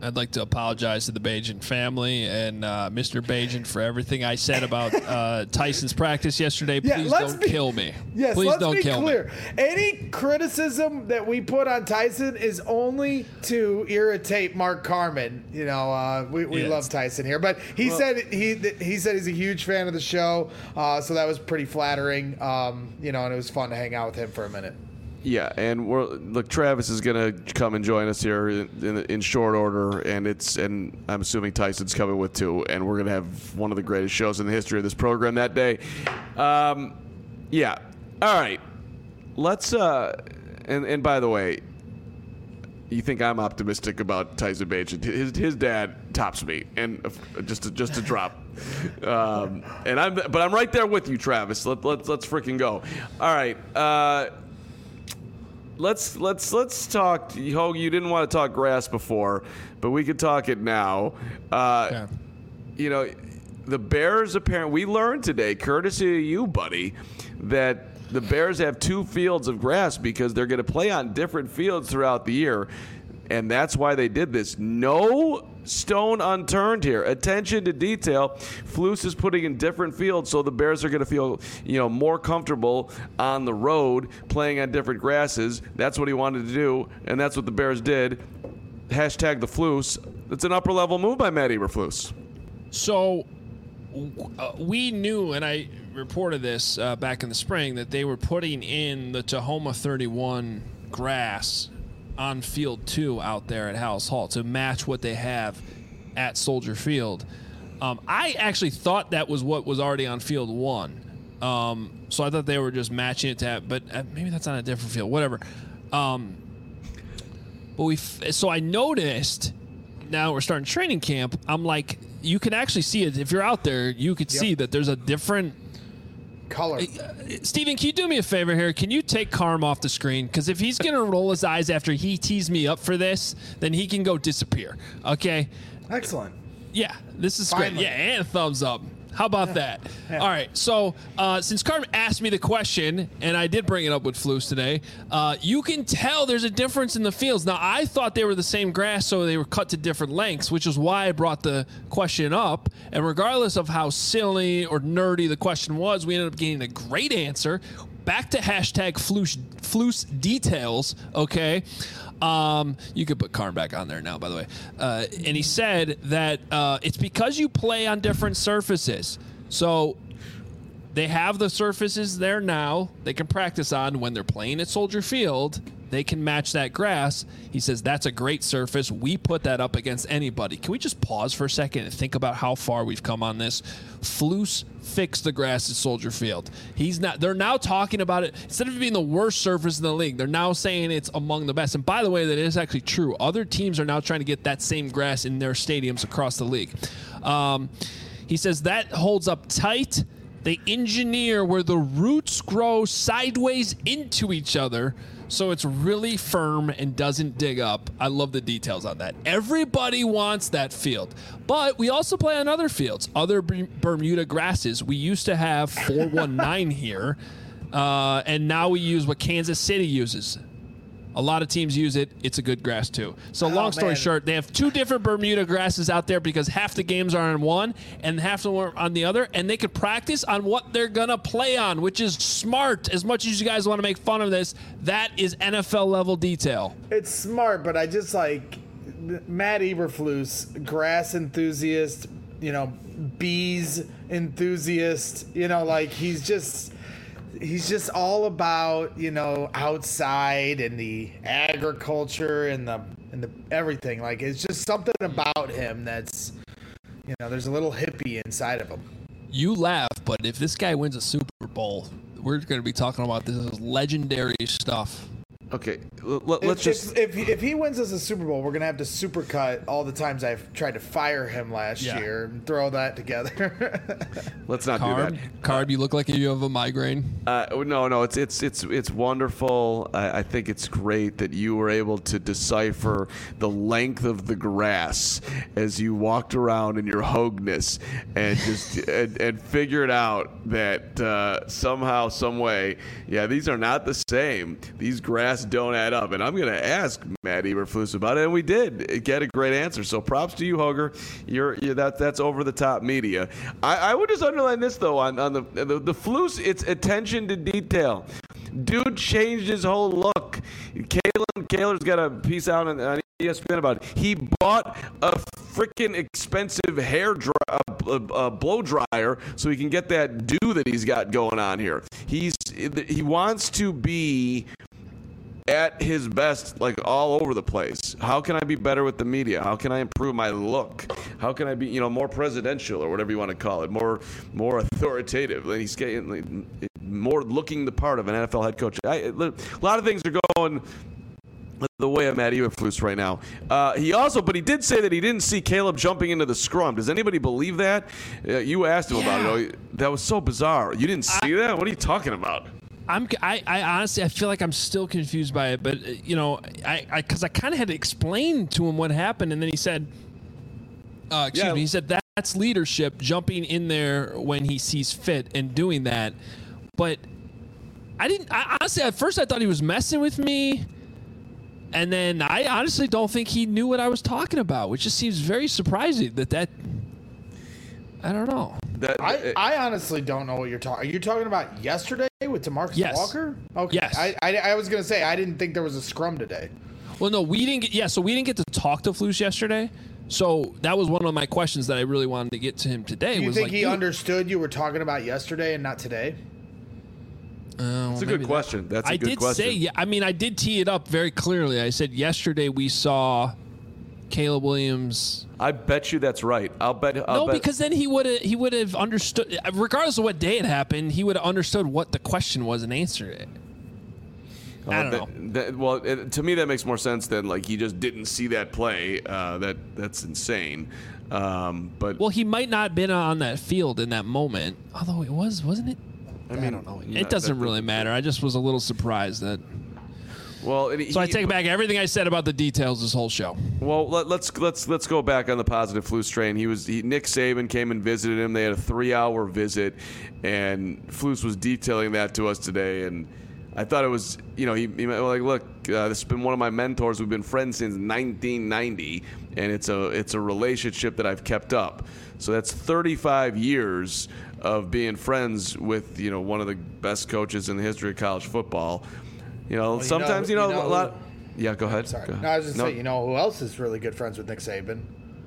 I'd like to apologize to the Bajan family and uh, Mister Bajan for everything I said about uh, Tyson's practice yesterday. Yeah, Please let's don't be- kill me. Yes, Please let's don't be kill clear. me. Any criticism that we put on Tyson is only to irritate Mark Carman. You know, uh, we, we Yes. love Tyson here, but he Well- said he he said he's a huge fan of the show, uh, so that was pretty flattering. Um, you know, and it was fun to hang out with him for a minute. Yeah, and we're look. Travis is gonna come and join us here in, in, in short order, and it's and I'm assuming Tyson's coming with too, and we're gonna have one of the greatest shows in the history of this program that day. Um, yeah. All right. Let's. Uh, and and by the way, you think I'm optimistic about Tyson Bagent? His his dad tops me, and uh, just to, just to drop. Um, and I'm but I'm right there with you, Travis. Let let let's freaking go. All right. Uh, Let's let's let's talk. Hogue, you didn't want to talk grass before, but we could talk it now. Uh, Yeah. You know, the Bears apparently we learned today, courtesy of you, buddy, that the Bears have two fields of grass because they're going to play on different fields throughout the year, and that's why they did this. No stone unturned here. Attention to detail. Flus is putting in different fields, so the Bears are going to feel, you know, more comfortable on the road playing on different grasses. That's what he wanted to do, and that's what the Bears did. Hashtag the Flus. It's an upper level move by Matt Eberflus. So uh, we knew, and I reported this uh, back in the spring, that they were putting in the Tahoma thirty-one grass on field two out there at House Hall to match what they have at Soldier Field. Um, I actually thought that was what was already on field one. Um, so I thought they were just matching it to have, but uh, maybe that's on a different field, whatever. Um, but we, f- so I noticed now we're starting training camp. I'm like, you can actually see it. If you're out there, you could Yep. see that there's a different Color. Steven, can you do me a favor here? Can you take Carm off the screen? Because if he's going to roll his eyes after he teased me up for this, then he can go disappear. Okay? Excellent. Yeah, this is great. Finally. Yeah, and a thumbs up. How about that? Yeah. All right. So uh, since Carm asked me the question, and I did bring it up with Flus today, uh, you can tell there's a difference in the fields. Now, I thought they were the same grass, so they were cut to different lengths, which is why I brought the question up. And regardless of how silly or nerdy the question was, we ended up getting a great answer. Back to hashtag Flus, Flus details, okay? Um, you could put Carm back on there now, by the way. Uh, and he said that uh, it's because you play on different surfaces. So they have the surfaces there now they can practice on when they're playing at Soldier Field. They can match that grass. He says that's a great surface. We put that up against anybody. Can we just pause for a second and think about how far we've come on this? Flus fixed the grass at Soldier Field. He's not. They're now talking about it instead of it being the worst surface in the league. They're now saying it's among the best. And by the way, that is actually true. Other teams are now trying to get that same grass in their stadiums across the league. Um, he says that holds up tight. They engineer where the roots grow sideways into each other, so it's really firm and doesn't dig up. I love the details on that. Everybody wants that field. But we also play on other fields, other B- Bermuda grasses. We used to have four one nine here, uh, and now we use what Kansas City uses. A lot of teams use it. It's a good grass, too. So long story man. short, they have two different Bermuda grasses out there because half the games are on one and half the are on the other, and they could practice on what they're going to play on, which is smart. As much as you guys want to make fun of this, that is N F L-level detail. It's smart, but I just like Matt Eberflus, grass enthusiast, you know, bees enthusiast, you know, like he's just he's just all about, you know, outside and the agriculture and the and the everything. Like it's just something about him that's, you know, there's a little hippie inside of him. You laugh, but if this guy wins a Super Bowl, we're going to be talking about this as legendary stuff. Okay, l- l- let's if, just. if, if if he wins us a Super Bowl, we're gonna have to supercut all the times I've tried to fire him last Yeah. year and throw that together. Let's not Carb, do that. Carb, you look like you have a migraine. Uh, no, no, it's it's it's it's wonderful. I, I think it's great that you were able to decipher the length of the grass as you walked around in your hogness and just and, and figured out that uh, somehow, some way, yeah, these are not the same. These grasses stats don't add up. And I'm going to ask Matt Eberflus about it, and we did get a great answer. So props to you, Hoger. You're, you're that that's over the top media. I, I would just underline this though on on the the, the Flus. It's attention to detail. Dude changed his whole look. Kalen Kaler's got a piece out on, on E S P N about it. He bought a freaking expensive hair dry, uh, uh, blow dryer so he can get that dew that he's got going on here. He's he wants to be at his best, like all over the place. How can I be better with the media? How can I improve my look? How can I be, you know, more presidential or whatever you want to call it, more more authoritative? And he's getting more looking the part of an N F L head coach. I, a lot of things are going the way of Matt Eberflus right now. Uh, he also, but he did say that he didn't see Caleb jumping into the scrum. Does anybody believe that? Uh, you asked him yeah. about it. That was so bizarre. You didn't see I, that? What are you talking about? I'm, I, I honestly, I feel like I'm still confused by it, but, uh, you know, I, I, cause I kind of had to explain to him what happened. And then he said, uh, excuse yeah. me, he said that, that's leadership, jumping in there when he sees fit and doing that. But I didn't, I honestly, at first I thought he was messing with me. And then I honestly don't think he knew what I was talking about, which just seems very surprising that that, I don't know. That, I, it, I honestly don't know what you're talking. Are you talking about yesterday with DeMarcus yes. Walker? Okay. Yes. I, I, I was going to say, I didn't think there was a scrum today. Well, no, we didn't get, yeah, so we didn't get to talk to Flus yesterday. So that was one of my questions that I really wanted to get to him today. Do you was think like, he dude, understood you were talking about yesterday and not today? Uh, That's a good question. That's a I good did question. say, yeah. I mean, I did tee it up very clearly. I said yesterday we saw Caleb Williams. I bet you that's right. I'll bet. I'll no, bet. because then he would have he would have understood. Regardless of what day it happened, he would have understood what the question was and answered it. Uh, I don't that, know. That, well, it, to me, that makes more sense than like he just didn't see that play. Uh, that that's insane. Um, but well, he might not have been on that field in that moment. Although it was, wasn't it? I mean, I don't know. It know, doesn't really matter. I just was a little surprised that. Well, it, so he, I take back everything I said about the details this whole show. Well, let, let's let's let's go back on the positive Flus train. He was he, Nick Saban came and visited him. They had a three-hour visit, and Flus was detailing that to us today. And I thought it was, you know, he, he like, look, uh, this has been one of my mentors. We've been friends since nineteen ninety, and it's a it's a relationship that I've kept up. So that's thirty-five years of being friends with, you know, one of the best coaches in the history of college football. You know, well, you sometimes, know, you, know, you know, a lot. Yeah, go ahead. Sorry. Go ahead. No, I was just no. saying, you know, who else is really good friends with Nick Saban?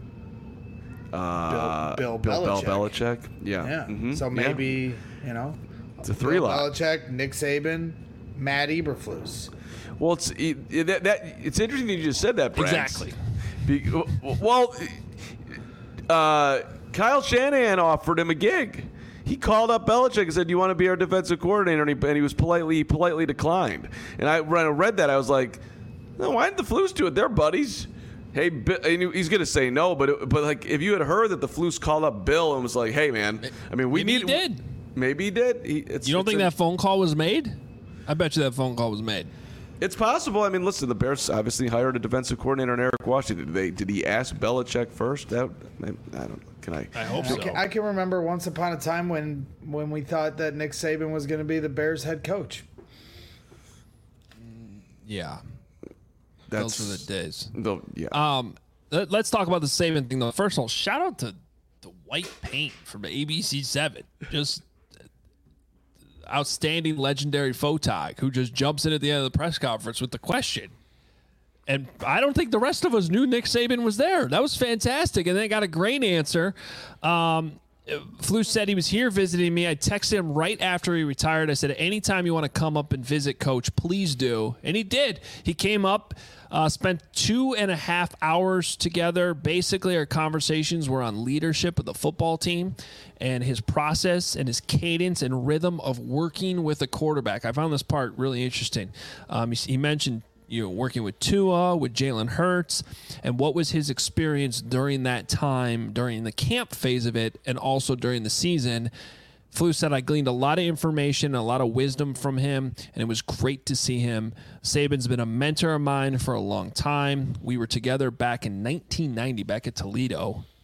Uh, Bill, Bill, Bill Belichick. Belichick. Yeah. Yeah. Mm-hmm. So maybe, yeah. you know, it's a three Bill lot. Belichick, Nick Saban, Matt Eberflus. Well, it's it, that, that it's interesting that you just said that, Brad. Exactly. Be, well, uh, Kyle Shanahan offered him a gig. He called up Belichick and said, "Do you want to be our defensive coordinator?" And he, and he was politely, politely declined. And I, when I read that, I was like, "No, why didn't the Flus do it? They're buddies." Hey, Bill, and he's going to say no, but it, but like if you had heard that the Flus called up Bill and was like, "Hey, man, I mean, we maybe need." He did. Maybe he did. He, it's, you don't it's think a, that phone call was made? I bet you that phone call was made. It's possible. I mean, listen, the Bears obviously hired a defensive coordinator in Eric Washington. Did they? Did he ask Belichick first? That I don't know. Can I? I hope I so. can, I can remember once upon a time when when we thought that Nick Saban was going to be the Bears head coach. Yeah, That's, those were the days. The, yeah. Um, let, let's talk about the Saban thing though. First of all, shout out to the white paint from A B C seven. Just outstanding, legendary photog who just jumps in at the end of the press conference with the question. And I don't think the rest of us knew Nick Saban was there. That was fantastic. And they got a great answer. Um, Flus said he was here visiting me. I texted him right after he retired. I said, anytime you want to come up and visit Coach, please do. And he did. He came up, uh, spent two and a half hours together. Basically, our conversations were on leadership of the football team and his process and his cadence and rhythm of working with a quarterback. I found this part really interesting. Um, he, he mentioned you know, working with Tua, with Jalen Hurts, and what was his experience during that time, during the camp phase of it, and also during the season. Flus said, I gleaned a lot of information, a lot of wisdom from him, and it was great to see him. Saban's been a mentor of mine for a long time. We were together back in nineteen ninety, back at Toledo.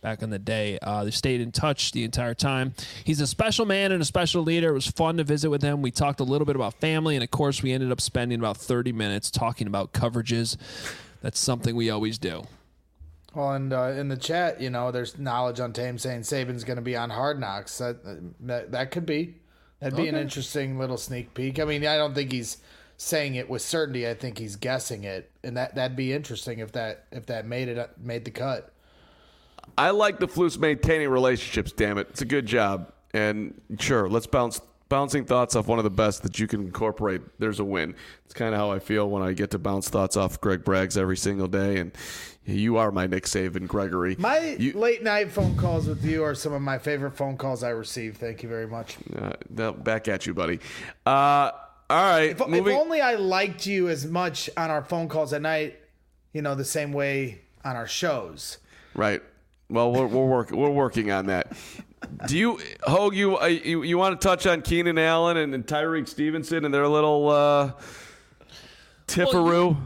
back in the day. Uh, they stayed in touch the entire time. He's a special man and a special leader. It was fun to visit with him. We talked a little bit about family, and of course, we ended up spending about thirty minutes talking about coverages. That's something we always do. Well, and uh, in the chat, you know, there's knowledge on Tame saying Saban's going to be on Hard Knocks. That, that that could be. That'd be okay. An interesting little sneak peek. I mean, I don't think he's saying it with certainty. I think he's guessing it, and that that'd be interesting if that if that made it made the cut. I like the Flus maintaining relationships. Damn it, it's a good job. And sure, let's bounce bouncing thoughts off one of the best that you can incorporate. There's a win. It's kind of how I feel when I get to bounce thoughts off Greg Braggs every single day. And you are my Nick Saban, Gregory. My you, late night phone calls with you are some of my favorite phone calls I receive. Thank you very much. Uh, back at you, buddy. Uh, all right. If, if only I liked you as much on our phone calls at night, you know, the same way on our shows. Right. Well, we're we're working we're working on that. Do you, Hogue, you, uh, you you want to touch on Keenan Allen and, and Tyrique Stevenson and their little uh, tipperoo? Well,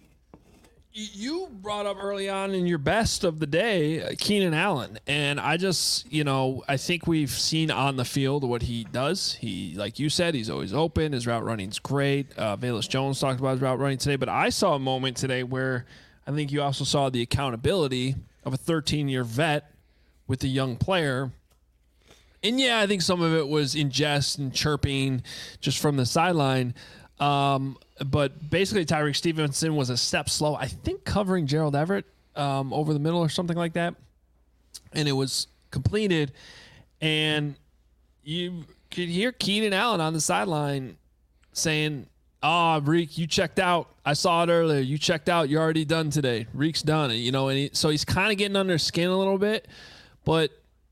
you, you brought up early on in your best of the day, uh, Keenan Allen. And I just, you know, I think we've seen on the field what he does. He, like you said, he's always open. His route running's great. Uh, Velus Jones talked about his route running today. But I saw a moment today where I think you also saw the accountability of a thirteen-year vet with a young player. And, yeah, I think some of it was in jest and chirping just from the sideline. Um, but basically, Tyrique Stevenson was a step slow, I think covering Gerald Everett um, over the middle or something like that. And it was completed. And you could hear Keenan Allen on the sideline saying, oh, Reek, you checked out. I saw it earlier. You checked out. You're already done today. Reek's done. You know, and he, so he's kind of getting under his skin a little bit. But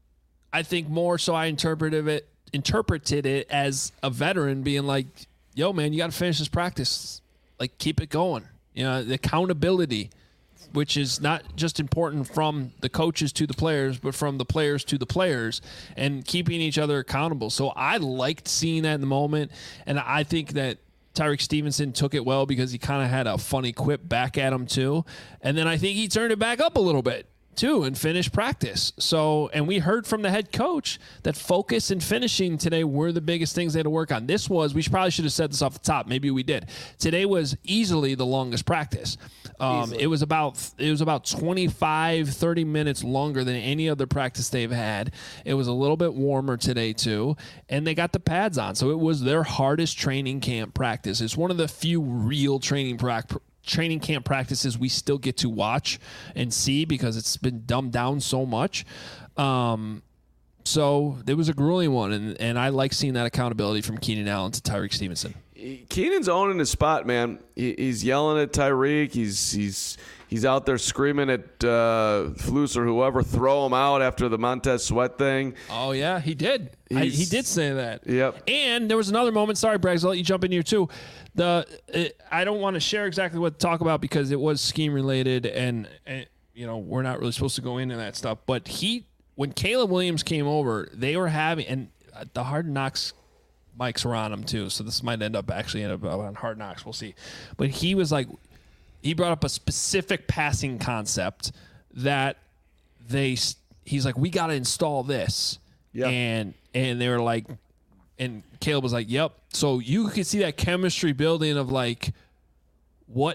I think more so I interpreted it interpreted it as a veteran being like, yo, man, you got to finish this practice. Like, keep it going. You know, the accountability, which is not just important from the coaches to the players, but from the players to the players and keeping each other accountable. So I liked seeing that in the moment. And I think that Tyrique Stevenson took it well because he kind of had a funny quip back at him too. And then I think he turned it back up a little bit too and finished practice. So, and we heard from the head coach that focus and finishing today were the biggest things they had to work on. This was, we probably should have said this off the top. Maybe we did. Today was easily the longest practice. Um, it was about, it was about twenty-five, thirty minutes longer than any other practice they've had. It was a little bit warmer today too. And they got the pads on. So it was their hardest training camp practice. It's one of the few real training practice training camp practices we still get to watch and see because it's been dumbed down so much. Um, so it was a grueling one, and, and I like seeing that accountability from Keenan Allen to Tyrique Stevenson. Keenan's owning his spot, man. He, he's yelling at Tyrique. He's he's he's out there screaming at uh, Flus or whoever, throw him out after the Montez Sweat thing. Oh, yeah, he did. I, he did say that. Yep. And there was another moment. Sorry, Braggs, I'll let you jump in here too. The it, I don't want to share exactly what to talk about because it was scheme related, and, and you know we're not really supposed to go into that stuff. But he, when Caleb Williams came over, they were having, and the Hard Knocks mics were on him too, so this might end up actually end up on Hard Knocks. We'll see. But he was like, he brought up a specific passing concept that they, he's like, we got to install this, yeah, and and they were like. And Caleb was like, yep. So you could see that chemistry building of like what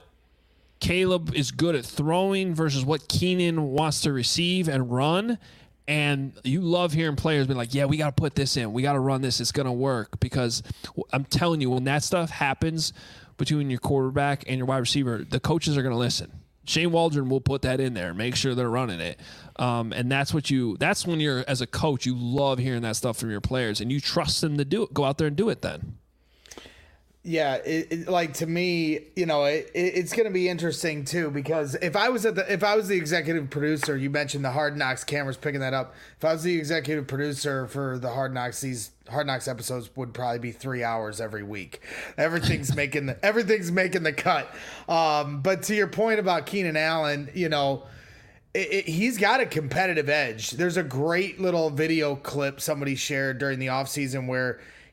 Caleb is good at throwing versus what Keenan wants to receive and run. And you love hearing players be like, yeah, we got to put this in. We got to run this. It's going to work. Because I'm telling you, when that stuff happens between your quarterback and your wide receiver, the coaches are going to listen. Shane Waldron will put that in there and make sure they're running it. Um, and that's what you, that's when you're, as a coach, you love hearing that stuff from your players and you trust them to do it. Go out there and do it then. Yeah. It, it, like to me, you know, it, it, it's going to be interesting too, because if I was at the, if I was the executive producer, you mentioned the Hard Knocks cameras picking that up. If I was the executive producer for the Hard Knocks, these Hard Knocks episodes would probably be three hours every week. Everything's making the, everything's making the cut. Um, but to your point about Keenan Allen, you know, it, it, he's got a competitive edge. There's a great little video clip somebody shared during the offseason where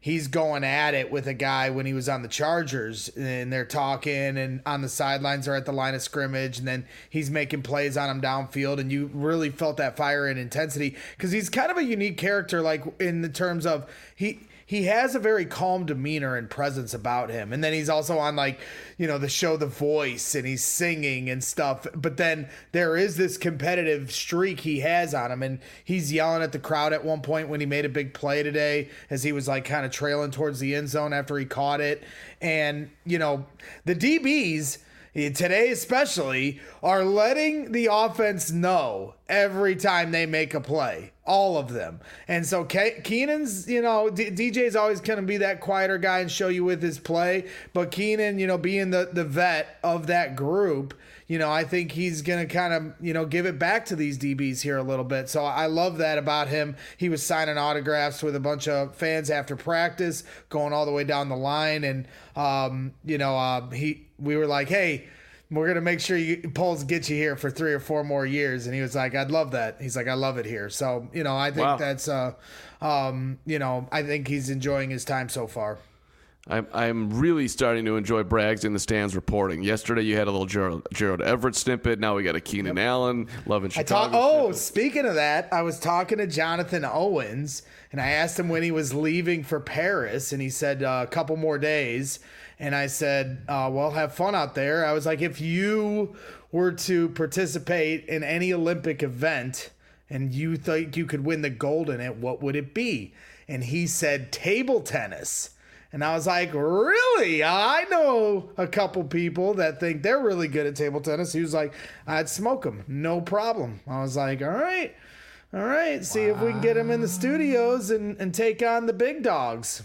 he's going at it with a guy when he was on the Chargers, and they're talking and on the sidelines or at the line of scrimmage, and then he's making plays on him downfield, and you really felt that fire and intensity because he's kind of a unique character, like in the terms of he he has a very calm demeanor and presence about him. And then he's also on, like, you know, the show The Voice, and he's singing and stuff. But then there is this competitive streak he has on him. And he's yelling at the crowd at one point when he made a big play today, as he was like kind of trailing towards the end zone after he caught it. And, you know, the D Bs today especially are letting the offense know every time they make a play, all of them. And so Ke- Keenan's, you know, D- DJ's always going to be that quieter guy and show you with his play, but Keenan, you know, being the, the vet of that group, you know, I think he's going to kind of, you know, give it back to these D Bs here a little bit. So I love that about him. He was signing autographs with a bunch of fans after practice, going all the way down the line. And, um, you know, uh, he, we were like, hey, we're going to make sure you polls get you here for three or four more years. And he was like, I'd love that. He's like, I love it here. So, you know, I think wow. that's, uh, um, you know, I think he's enjoying his time so far. I'm I'm really starting to enjoy Braggs in the stands reporting. Yesterday you had a little Gerald, Gerald Everett snippet. Now we got a Keenan yep. Allen. Loving Chicago. I talk, oh, snippet. Speaking of that, I was talking to Jonathan Owens, and I asked him when he was leaving for Paris, and he said uh, a couple more days. And I said, uh, well, have fun out there. I was like, if you were to participate in any Olympic event and you think you could win the gold in it, what would it be? And he said table tennis. And I was like, really? I know a couple people that think they're really good at table tennis. He was like, I'd smoke them. No problem. I was like, all right. All right. See wow. if we can get him in the studios and, and take on the big dogs.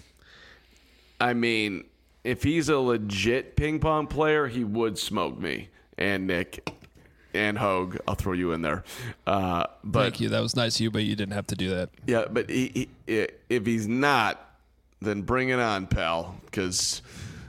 I mean, if he's a legit ping pong player, he would smoke me and Nick and Hogue. I'll throw you in there. Uh, but, Thank you. That was nice of you, but you didn't have to do that. Yeah, but he, he, if he's not, then bring it on, pal, because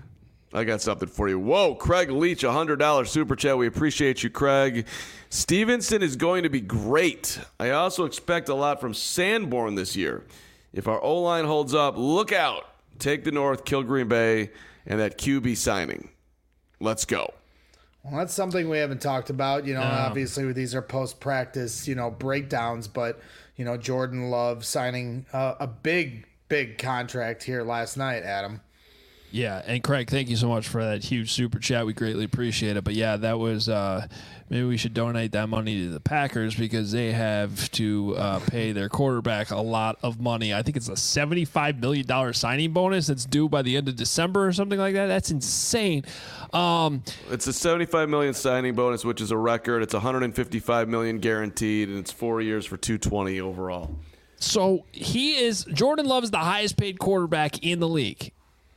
I got something for you. Whoa, Craig Leach, one hundred dollars super chat. We appreciate you, Craig. Stevenson is going to be great. I also expect a lot from Sanborn this year. If our O-line holds up, look out. Take the North, kill Green Bay, and that Q B signing. Let's go. Well, that's something we haven't talked about. You know, no. Obviously these are post-practice, you know, breakdowns, but, you know, Jordan Love signing uh, a big Big contract here last night, Adam. Yeah, and Craig, thank you so much for that huge super chat. We greatly appreciate it. But yeah, that was uh, maybe we should donate that money to the Packers because they have to uh, pay their quarterback a lot of money. I think it's a seventy-five million dollars signing bonus that's due by the end of December or something like that. That's insane. Um, it's a seventy-five million dollars signing bonus, which is a record. It's one hundred fifty-five million dollars guaranteed, and it's four years for two hundred twenty overall. So he is Jordan Love is the highest paid quarterback in the league.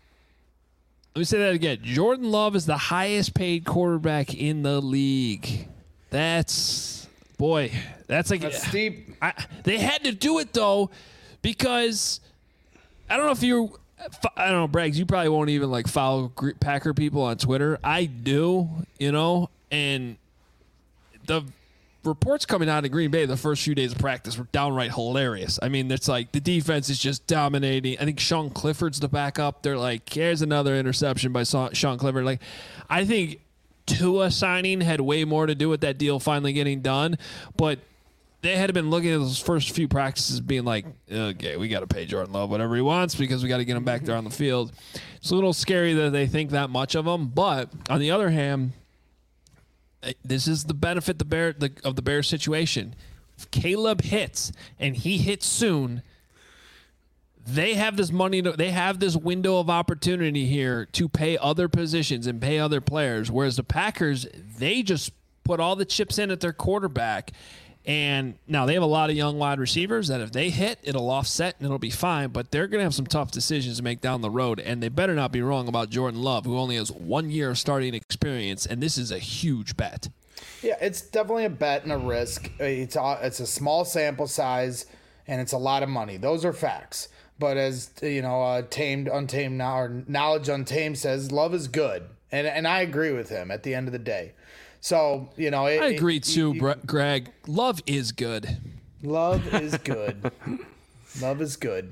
Let me say that again. Jordan Love is the highest paid quarterback in the league. That's boy, that's like that's steep. I, they had to do it though because I don't know if you I don't know, Braggs, you probably won't even like follow Packer people on Twitter. I do, you know, and the reports coming out of Green Bay the first few days of practice were downright hilarious. I mean, it's like the defense is just dominating. I think Sean Clifford's the backup. They're like, here's another interception by Sean Clifford. Like, I think Tua signing had way more to do with that deal finally getting done, but they had been looking at those first few practices being like, okay, we got to pay Jordan Love whatever he wants because we got to get him back there on the field. It's a little scary that they think that much of him, but on the other hand, this is the benefit the Bear the, of the Bears situation. If Caleb hits and he hits soon, they have this money. To, they have this window of opportunity here to pay other positions and pay other players. Whereas the Packers, they just put all the chips in at their quarterback. And now they have a lot of young wide receivers that if they hit, it'll offset and it'll be fine. But they're going to have some tough decisions to make down the road. And they better not be wrong about Jordan Love, who only has one year of starting experience. And this is a huge bet. Yeah, it's definitely a bet and a risk. It's a, it's a small sample size and it's a lot of money. Those are facts. But as, you know, uh, tamed, untamed, now or knowledge untamed says, Love is good. And, and I agree with him at the end of the day. So, you know, it, I agree it, too, you, Greg. Love is good. Love is good. Love is good.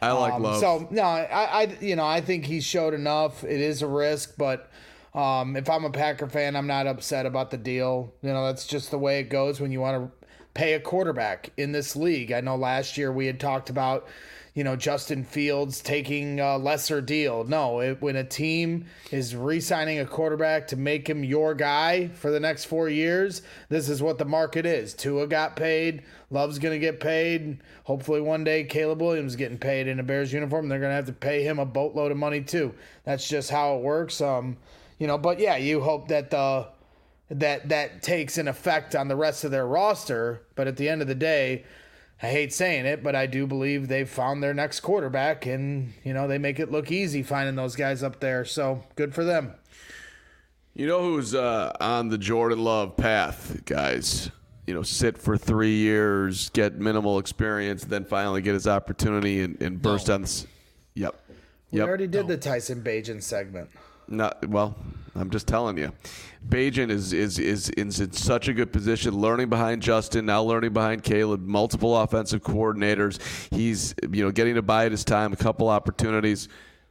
I like um, Love. So no, I, I, you know, I think he showed enough. It is a risk, but um, if I'm a Packer fan, I'm not upset about the deal. You know, that's just the way it goes when you want to pay a quarterback in this league. I know last year we had talked about, you know, Justin Fields taking a lesser deal. No, it, when a team is re-signing a quarterback to make him your guy for the next four years, this is what the market is. Tua got paid. Love's going to get paid. Hopefully one day Caleb Williams is getting paid in a Bears uniform. They're going to have to pay him a boatload of money too. That's just how it works. Um, you know, but yeah, you hope that the that that takes an effect on the rest of their roster. But at the end of the day, I hate saying it, but I do believe they've found their next quarterback, and, you know, they make it look easy finding those guys up there. So good for them. You know who's uh, on the Jordan Love path, guys? You know, sit for three years, get minimal experience, then finally get his opportunity and, and burst No. on this. Yep. We Yep. already did the Tyson Bagent segment. Not well. I'm just telling you, Bagent is, is is is in such a good position, learning behind Justin, now learning behind Caleb, multiple offensive coordinators. He's you know getting to bide his time, a couple opportunities.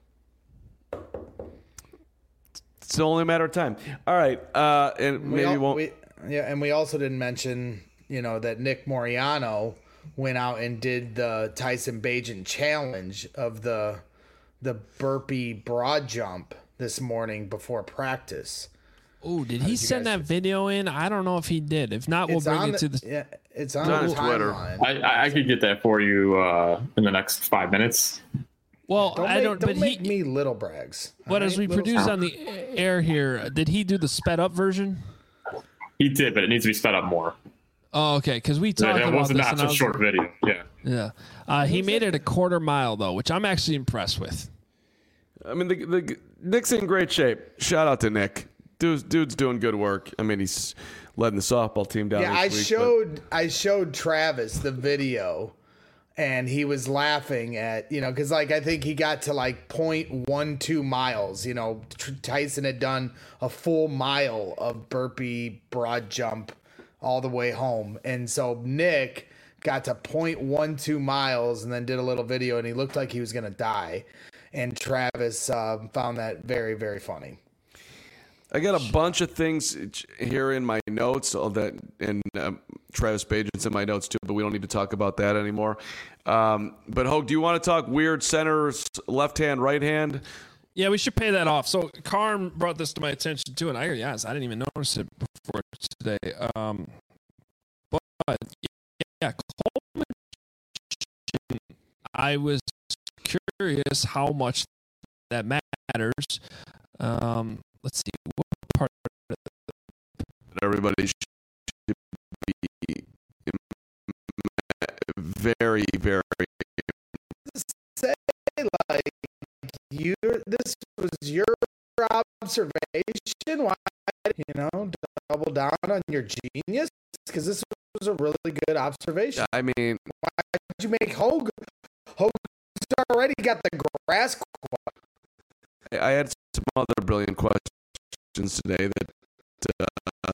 It's only a matter of time. All right, uh, and We maybe al- won't. we- yeah, and we also didn't mention, you know, that Nick Moriano went out and did the Tyson Bagent challenge of the the burpee broad jump this morning before practice. Oh, did he you send guys- that video in? I don't know if he did. If not, we'll It's bring on it to the, the. yeah, it's on, It's on the his Twitter. timeline. I, I I could get that for you uh, in the next five minutes. Well, Don't I make, don't. don't But make he. me little brags. But all as right? we Little produce stuff. on the air here, did he do the sped up version? He did, but it needs to be sped up more. Oh, okay. Because we That, talked that about was this. not and I a was- short video. Yeah. Yeah. Uh, he made it a quarter mile though, which I'm actually impressed with. I mean, the, the Nick's in great shape. Shout out to Nick. Dude's, dude's doing good work. I mean, he's letting the softball team down. Yeah, this I week, showed I showed Travis the video, and he was laughing at, you know, because like I think he got to like point one two miles. You know, Tr- Tyson had done a full mile of burpee broad jump all the way home, and so Nick got to point one two miles and then did a little video, and he looked like he was gonna die. And Travis uh, found that very very funny. I got a bunch of things here in my notes, all that, and um, Travis Bagent's in my notes too, but we don't need to talk about that anymore. Um, but Hogue, do you want to talk weird centers, left hand, right hand? Yeah, we should pay that off. So Carm brought this to my attention too, and I yes, I didn't even notice it before today. Um, but yeah, Coleman, I was curious how much that matters. Um, let's see, what part of Everybody should be very, very. Say like you this was your observation. Why, you know, double down on your genius, because this was a really good observation. I mean, Did you make Hogue? Hogue's already got the grass. I had some other brilliant questions today that uh,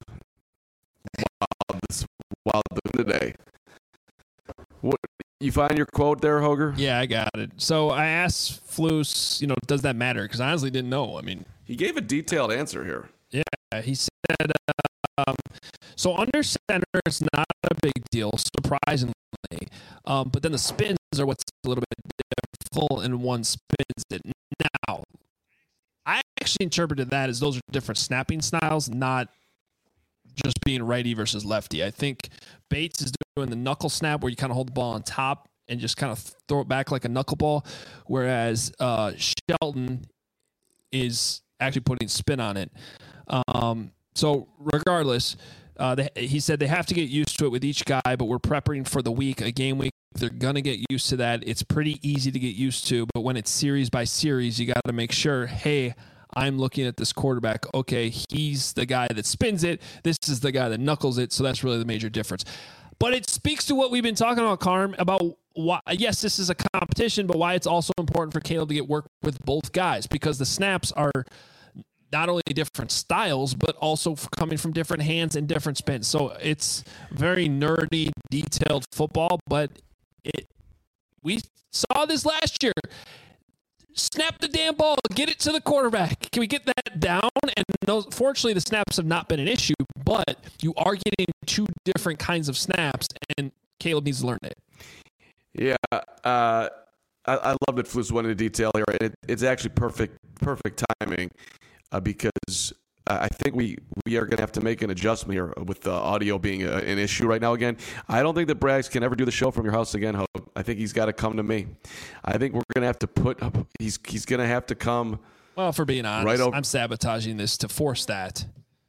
wow, this wow today. What you find your quote there, Hoger? Yeah, I got it. So I asked Flus, you know, does that matter? Because I honestly didn't know. I mean, He gave a detailed answer here. yeah, he said, um, so under center, it's not a big deal, surprisingly. Um, but then the spins are what's a little bit difficult, and one spins it. Now, I actually interpreted that as those are different snapping styles, not just being righty versus lefty. I think Bates is doing the knuckle snap where you kind of hold the ball on top and just kind of throw it back like a knuckleball, whereas uh, Shelton is actually putting spin on it. Um, so regardless, uh, they, he said they have to get used to it with each guy, but we're preparing for the week, a game week. They're going to get used to that. It's pretty easy to get used to, but when it's series by series, you got to make sure, hey, I'm looking at this quarterback. Okay, he's the guy that spins it. This is the guy that knuckles it. So that's really the major difference. But it speaks to what we've been talking about, Carm, about why, yes, this is a competition, but why it's also important for Caleb to get work with both guys, because the snaps are not only different styles, but also coming from different hands and different spins. So it's very nerdy, detailed football, but it We saw this last year. Snap the damn ball. Get it to the quarterback. Can we get that down? And those, fortunately, the snaps have not been an issue, but you are getting two different kinds of snaps, and Caleb needs to learn it. Yeah, uh, I, I love that Flus went into detail here. It, it's actually perfect, perfect timing uh, because I think we, we are going to have to make an adjustment here with the audio being a, an issue right now again. I don't think that Braggs can ever do the show from your house again, Hope. I think he's got to come to me. I think we're going to have to put up, he's he's going to have to come. Well, for being honest, right over- I'm sabotaging this to force that.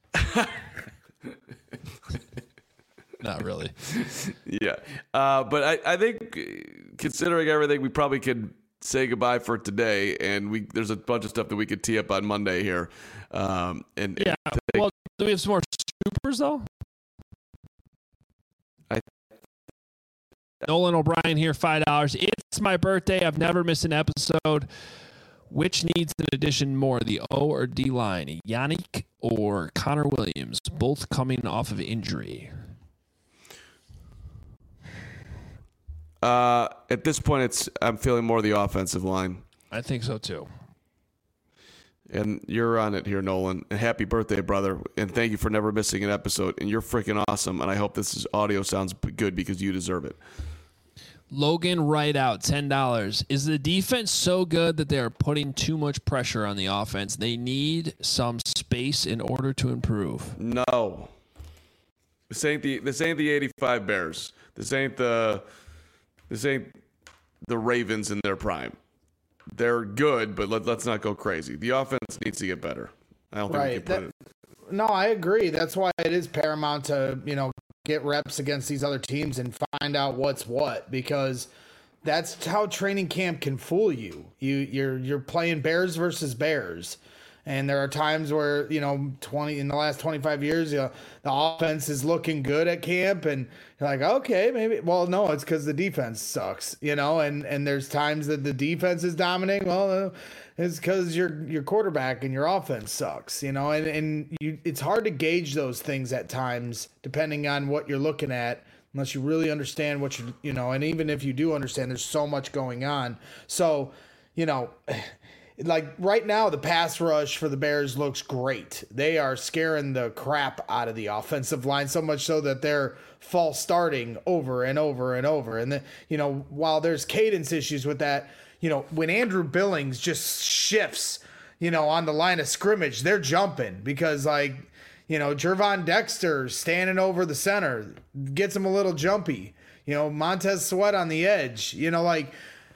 Not really. Yeah. Uh, but I, I think considering everything, we probably could say goodbye for today, and we there's a bunch of stuff that we could tee up on Monday here. Um, and yeah. And well, do we have some more supers though? I, Nolan O'Brien here, five dollars. It's my birthday. I've never missed an episode. Which needs an addition more, the O or D line? Yannick or Connor Williams, both coming off of injury. Uh, at this point, it's I'm feeling more the offensive line. I think so too. And you're on it here, Nolan. And happy birthday, brother. And thank you for never missing an episode. And you're freaking awesome. And I hope this is, audio sounds good because you deserve it. Logan Wright out, ten dollars. Is the defense so good that they are putting too much pressure on the offense? They need some space in order to improve. No. This ain't the this ain't the eighty-five Bears. This ain't the this ain't the Ravens in their prime. They're good, but let, let's not go crazy. The offense needs to get better. I don't think Right. we can put That- it. No, I agree. That's why it is paramount to, you know, get reps against these other teams and find out what's what, because that's how training camp can fool you. You you're you're playing Bears versus Bears. And there are times where, you know, twenty in the last twenty-five years, you know, the offense is looking good at camp, and you're like, okay, maybe. Well, no, it's because the defense sucks, you know. And and there's times that the defense is dominating. Well, uh, it's because your your quarterback and your offense sucks, you know. And and you, it's hard to gauge those things at times, depending on what you're looking at, unless you really understand what you you know. And even if you do understand, there's so much going on. So, you know. Like right now, the pass rush for the Bears looks great. They are scaring the crap out of the offensive line, so much so that they're false starting over and over and over. And then, you know, while there's cadence issues with that, you know, when Andrew Billings just shifts, you know, on the line of scrimmage, they're jumping because, like, you know, Jervon Dexter standing over the center gets him a little jumpy. You know, Montez Sweat on the edge, you know, like,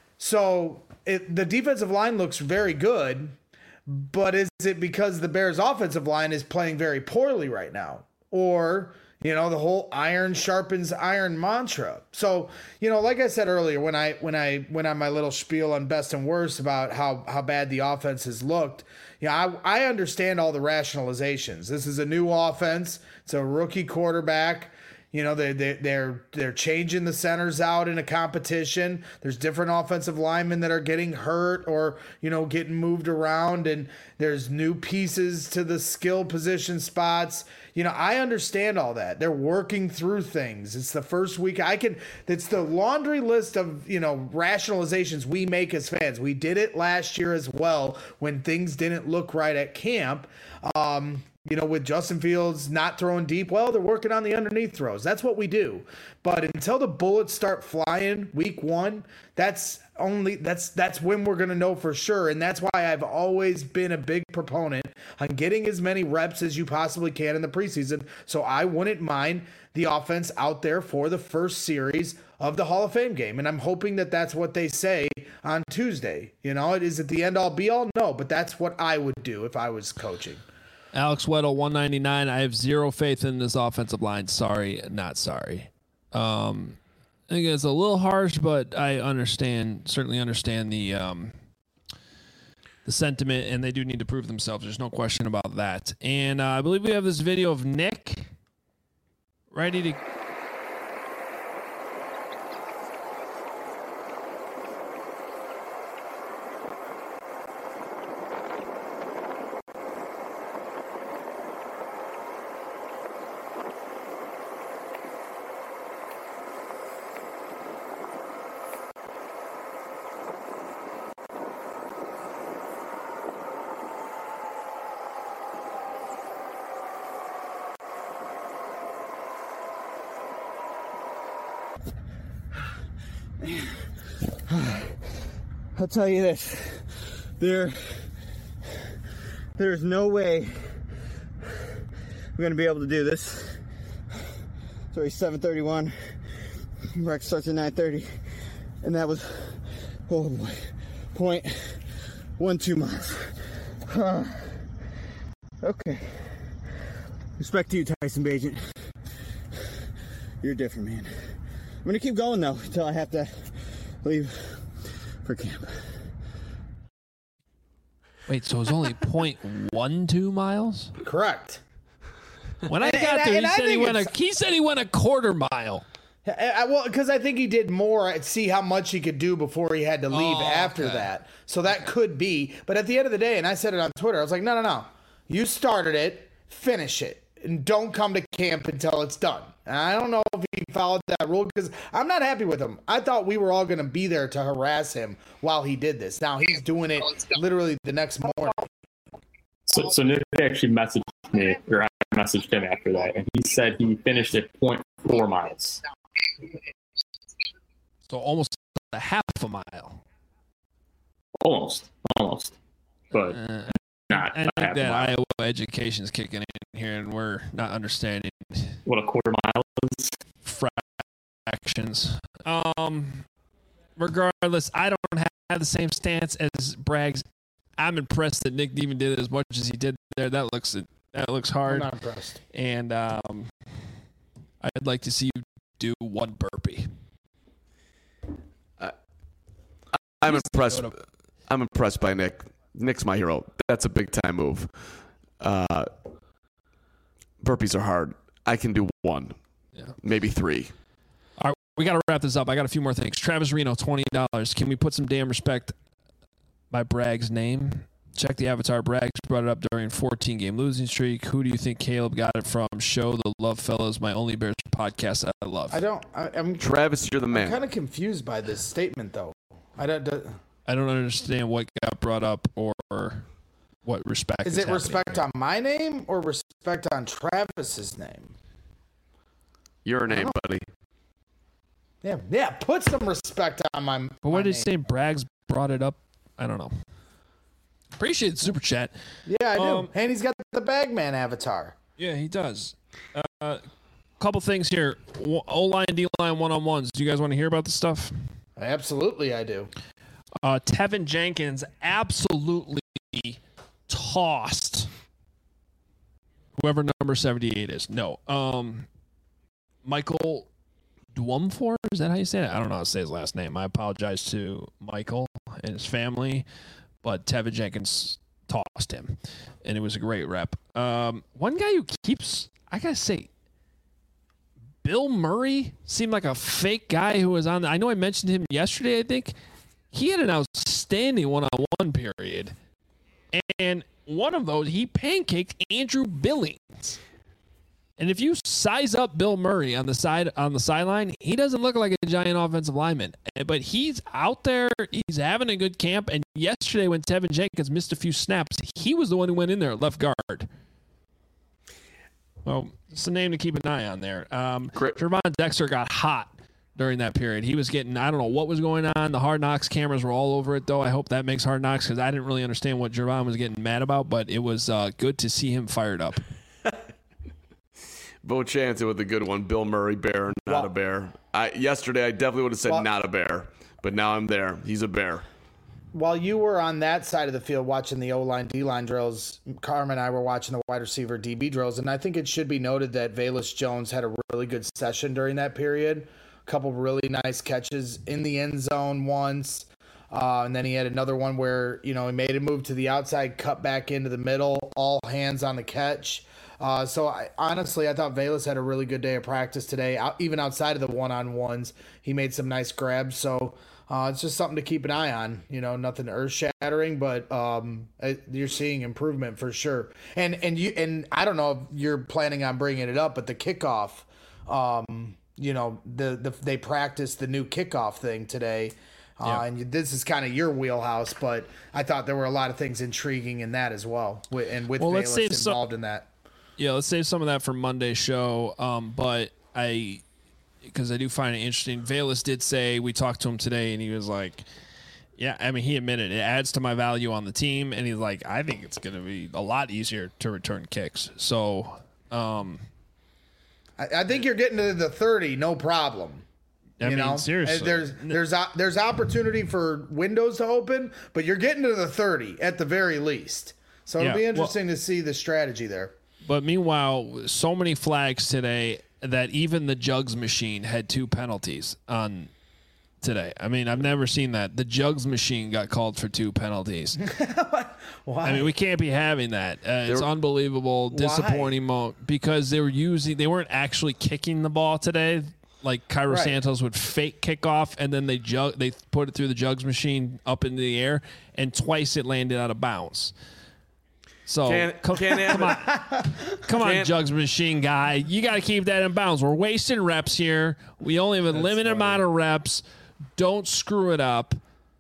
so it, the defensive line looks very good, but is it because the Bears offensive line is playing very poorly right now? Or, you know, the whole iron sharpens iron mantra. So, you know, like I said earlier, when I when I went on my little spiel on best and worst about how, how bad the offense has looked, you know, I, I understand all the rationalizations. This is a new offense. It's a rookie quarterback. You know, they they they're they're changing the centers out in a competition. There's different offensive linemen that are getting hurt or, you know, getting moved around, and there's new pieces to the skill position spots. You know, I understand all that. They're working through things. It's the first week. I can it's the laundry list of, you know, rationalizations we make as fans. We did it last year as well when things didn't look right at camp. Um You know, with Justin Fields not throwing deep, well, they're working on the underneath throws. That's what we do. But until the bullets start flying week one, that's only that's that's when we're going to know for sure. And that's why I've always been a big proponent on getting as many reps as you possibly can in the preseason. So I wouldn't mind the offense out there for the first series of the Hall of Fame game. And I'm hoping that that's what they say on Tuesday. You know, is it the end all be all? No, but that's what I would do if I was coaching. Alex Weddle, one ninety-nine. I have zero faith in this offensive line. Sorry, not sorry. Um, I think it's a little harsh, but I understand, certainly understand the um, the sentiment, and they do need to prove themselves. There's no question about that. And uh, I believe we have this video of Nick ready to. I'll tell you this. There, there's no way we're going to be able to do this. It's already seven thirty-one. Rec starts at nine thirty. And that was, oh boy, point one two miles. Huh. Okay. Respect to you, Tyson Bagent. You're different, man. I'm going to keep going, though, until I have to leave for camp. Wait, so it was only point one two miles? Correct. When I And- got and- there, and he I said he think went a it's- he said he went a quarter mile. I, I, well, because I think he did more at see how much he could do before he had to leave Oh, after okay. that. So that could be. But at the end of the day, and I said it on Twitter, I was like, no, no, no. You started it, finish it, and don't come to camp until it's done. And I don't know if he followed that rule because I'm not happy with him. I thought we were all going to be there to harass him while he did this. Now he's doing it literally the next morning. So, so Nick actually messaged me, or I messaged him after that, and he said he finished at point four miles. So almost a half a mile. Almost, almost, but Uh, not I a think half a that mile. Iowa education's kicking in here, and we're not understanding What a quarter mile is. fractions. Um, regardless, I don't have the same stance as Braggs. I'm impressed that Nick even did as much as he did there. That looks that looks I'm hard, not impressed. and um, I'd like to see you do one burpee. I'm impressed. I'm impressed by Nick. Nick's my hero. That's a big time move. Uh, burpees are hard. I can do one, Yeah. maybe three. All right, we got to wrap this up. I got a few more things. Travis Reno, twenty dollars. Can we put some damn respect by Bragg's name? Check the avatar. Braggs brought it up during fourteen-game losing streak. Who do you think Caleb got it from? Show the love, fellas. My only Bears podcast I love. I don't. I, I'm, Travis, you're the I'm man. kind of confused by this statement, though. I don't. do- I don't understand what got brought up or what respect Is is it happening respect here. on my name or respect on Travis's name? Your name, buddy. Yeah, yeah. Put some respect on my. But my what did he name. say? Braggs brought it up? I don't know. Appreciate the super chat. Yeah, I do. Um, and he's got the Bagman avatar. Yeah, he does. Uh, couple things here. O line, D line, one on ones. Do you guys want to hear about this stuff? Absolutely, I do. Uh, Tevin Jenkins absolutely tossed whoever number seventy-eight is. No. Um, Michael Dwumfor? Is that how you say it? I don't know how to say his last name. I apologize to Michael and his family, but Tevin Jenkins tossed him, and it was a great rep. Um, one guy who keeps, I got to say, Bill Murray seemed like a fake guy who was on. The, I know I mentioned him yesterday, I think. He had an outstanding one-on-one period. And one of those, he pancaked Andrew Billings. And if you size up Bill Murray on the side on the sideline, he doesn't look like a giant offensive lineman. But he's out there, he's having a good camp. And yesterday when Tevin Jenkins missed a few snaps, he was the one who went in there at left guard. Well, it's a name to keep an eye on there. Um, Great. Trevon Dexter got hot during that period. He was getting, I don't know what was going on. The Hard Knocks cameras were all over it, though. I hope that makes Hard Knocks because I didn't really understand what Trevon was getting mad about, but it was uh, good to see him fired up. Bo Chanson with a good one. Bill Murray, bear, not Well- a bear. I yesterday I definitely would have said Well- not a bear, but now I'm there. He's a bear. While you were on that side of the field watching the O-line, D-line drills, Carmen and I were watching the wide receiver D B drills, and I think it should be noted that Velus Jones had a really good session during that period. A couple really nice catches in the end zone once, uh, and then he had another one where, you know, he made a move to the outside, cut back into the middle, all hands on the catch. Uh, so I, honestly, I thought Velus had a really good day of practice today. Out, even outside of the one-on-ones, he made some nice grabs. So uh, it's just something to keep an eye on. You know, nothing earth-shattering, but um, it, you're seeing improvement for sure. And and you and I don't know if you're planning on bringing it up, but the kickoff, um, you know, the, the they practiced the new kickoff thing today. Uh, Yeah. And this is kind of your wheelhouse, but I thought there were a lot of things intriguing in that as well, wi- and with Well, let's Velus save some- involved in that. Yeah, let's save some of that for Monday's show. Um, but I, because I do find it interesting. Velus did say, we talked to him today, and he was like, yeah, I mean, he admitted it adds to my value on the team, and he's like, I think it's going to be a lot easier to return kicks. So, um, I, I think you're getting to the thirty, no problem. I you mean, know, seriously, And there's there's a, there's opportunity for windows to open, but you're getting to the thirty at the very least. So it'll Yeah, be interesting well, to see the strategy there. But meanwhile, so many flags today that even the jugs machine had two penalties on today. I mean, I've never seen that. The jugs machine got called for two penalties. Why? I mean, we can't be having that. Uh, it's unbelievable, disappointing mo- because they were using, they weren't actually kicking the ball today. Like Cairo Right. Santos would fake kickoff, and then they jug, they put it through the jugs machine up into the air, and twice it landed out of bounds. So Can't- come, can't have come on, come on, Can't- jugs machine guy, you got to keep that in bounds. We're wasting reps here. We only have a limited funny. amount of reps. Don't screw it up.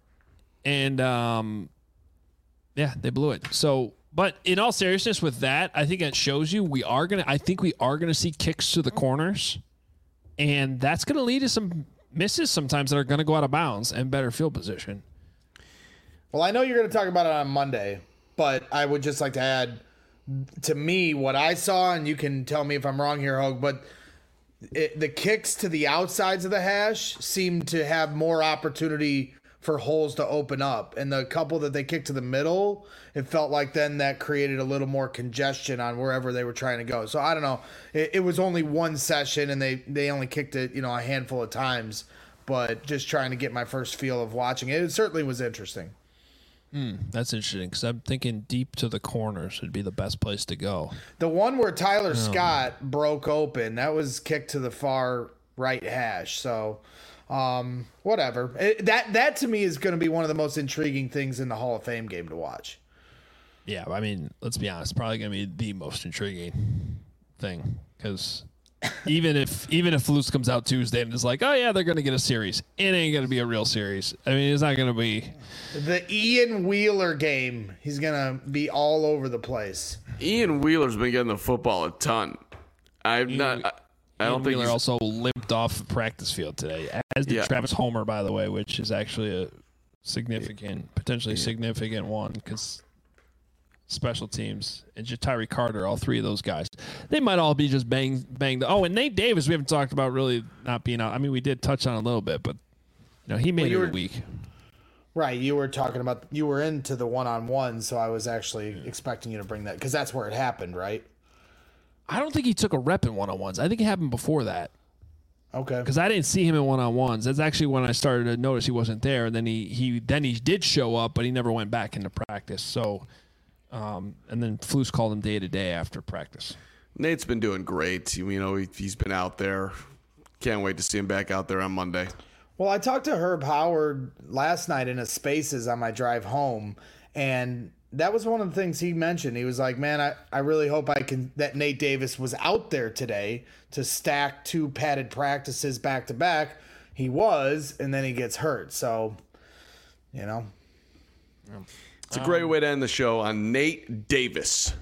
And um, yeah, they blew it. So, but in all seriousness, with that, I think it shows you we are gonna. I think we are gonna see kicks to the corners. And that's going to lead to some misses sometimes that are going to go out of bounds and better field position. Well, I know you're going to talk about it on Monday, but I would just like to add, to me, what I saw, and you can tell me if I'm wrong here, Hogue, but it, the kicks to the outsides of the hash seemed to have more opportunity for holes to open up. And the couple that they kicked to the middle, it felt like then that created a little more congestion on wherever they were trying to go. So I don't know. It, it was only one session, and they, they only kicked it, you know, a handful of times. But just trying to get my first feel of watching it, it certainly was interesting. Mm, that's interesting because I'm thinking deep to the corners would be the best place to go. The one where Tyler Oh. Scott broke open, that was kicked to the far right hash. So, um, whatever. It, that that to me is going to be one of the most intriguing things in the Hall of Fame game to watch. Yeah, I mean, let's be honest, probably going to be the most intriguing thing because even if even if Flus comes out Tuesday and is like, oh yeah, they're going to get a series, it ain't going to be a real series. I mean, it's not going to be The Ian Wheeler game, he's going to be all over the place. Ian Wheeler's been getting the football a ton. I'm Ian- not. I, I Ian don't think Wheeler he's, also limped off the practice field today, as did Yeah. Travis Homer, by the way, which is actually a significant, potentially significant one because special teams and Jatari Carter, all three of those guys, they might all be just bang banged. Oh, and Nate Davis, we haven't talked about really not being out. I mean, we did touch on it a little bit, but you know, he made Well, you it were- a week. Right, you were talking about, you were into the one-on-one, so I was actually expecting you to bring that, because that's where it happened, right? I don't think he took a rep in one on ones. I think it happened before that. Okay. Because I didn't see him in one on ones. That's actually when I started to notice he wasn't there. And then he he then he did show up, but he never went back into practice. So, um, and then Flus called him day to day after practice. Nate's been doing great. You know, he, he's been out there. Can't wait to see him back out there on Monday. Well, I talked to Herb Howard last night in a Spaces on my drive home, and that was one of the things he mentioned. He was like, man, I, I really hope I can that Nate Davis was out there today to stack two padded practices back to back. He was, and then he gets hurt. So, you know. It's a great way to end the show on Nate Davis.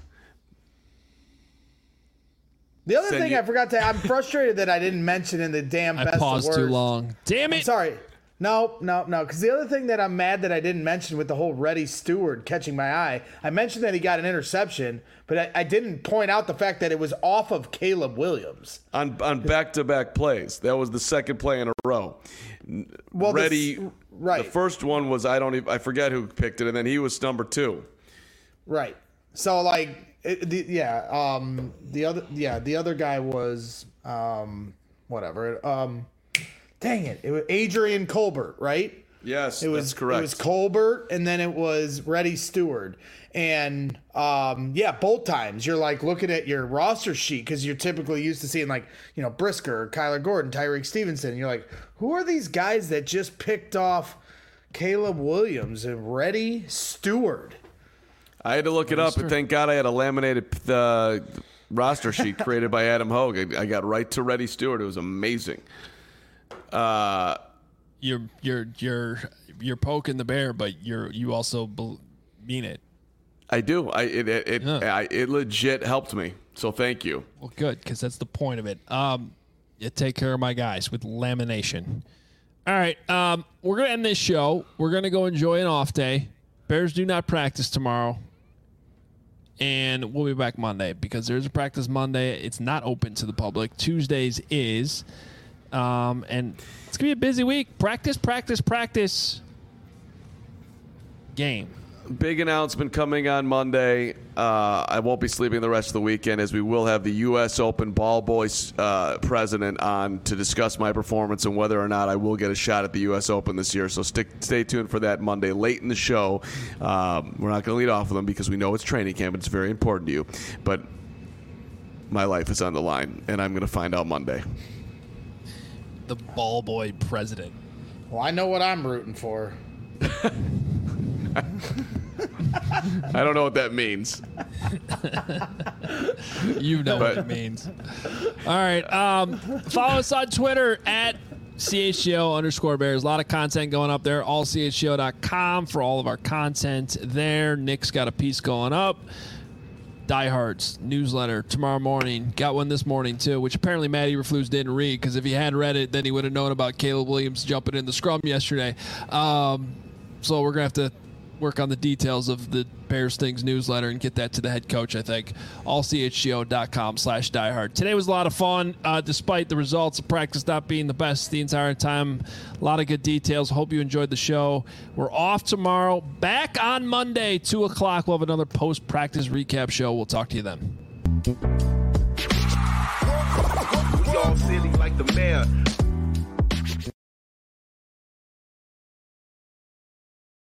The other Send thing you- I forgot to, I'm frustrated that I didn't mention in the damn I best of paused too worst. long. Damn I'm it! sorry. No, no, no. Because the other thing that I'm mad that I didn't mention with the whole Reddy Stewart catching my eye, I mentioned that he got an interception, but I, I didn't point out the fact that it was off of Caleb Williams. On on back-to-back plays. That was the second play in a row. Well, the Ready. s- right. The first one was I don't even, I forget who picked it, and then he was number two. Right. So like, it, the, yeah. Um, the other, yeah, the other guy was, um, whatever. Um, dang it, it was Adrian Colbert, right? Yes, It was that's correct. It was Colbert, and then it was Reddy Stewart, and um, yeah, both times you're like looking at your roster sheet because you're typically used to seeing like you know Brisker, Kyler Gordon, Tyreek Stevenson. And you're like, who are these guys that just picked off Caleb Williams and Reddy Stewart? I had to look it up, and thank God I had a laminated uh, roster sheet created by Adam Hogue. I, I got right to Reddy Stewart. It was amazing. Uh, You're you're you're you're poking the bear, but you're you also bel- mean it. I do. I it it it, Yeah. I, it legit helped me. So thank you. Well, good because that's the point of it. Um, You take care of my guys with lamination. All right, um, we're going to end this show. We're going to go enjoy an off day. Bears do not practice tomorrow. And we'll be back Monday because there's a practice Monday. It's not open to the public. Tuesdays is. Um, and it's going to be a busy week. Practice, practice, practice. Game. Big announcement coming on Monday. Uh, I won't be sleeping the rest of the weekend as we will have the U S Open Ball Boys uh, president on to discuss my performance and whether or not I will get a shot at the U S Open this year. So stick, stay tuned for that Monday late in the show. Um, we're not going to lead off with them because we know it's training camp and it's very important to you. But my life is on the line, and I'm going to find out Monday. The Ball Boy president. Well, I know what I'm rooting for. I don't know what that means. You know But- what it means. All right. Um, follow us on Twitter at C H G O underscore Bears. A lot of content going up there. all c h g o dot com for all of our content there. Nick's got a piece going up. Diehards newsletter tomorrow morning. Got one this morning, too, which apparently Matt Eberflus didn't read because if he had read it, then he would have known about Caleb Williams jumping in the scrum yesterday. Um, so we're going to have to work on the details of the Bears Things newsletter and get that to the head coach, I think. all c h g o dot com slash diehard. Today was a lot of fun, uh, despite the results of practice not being the best the entire time. A lot of good details. Hope you enjoyed the show. We're off tomorrow. Back on Monday, two o'clock. We'll have another post-practice recap show. We'll talk to you then. We all silly like the mayor.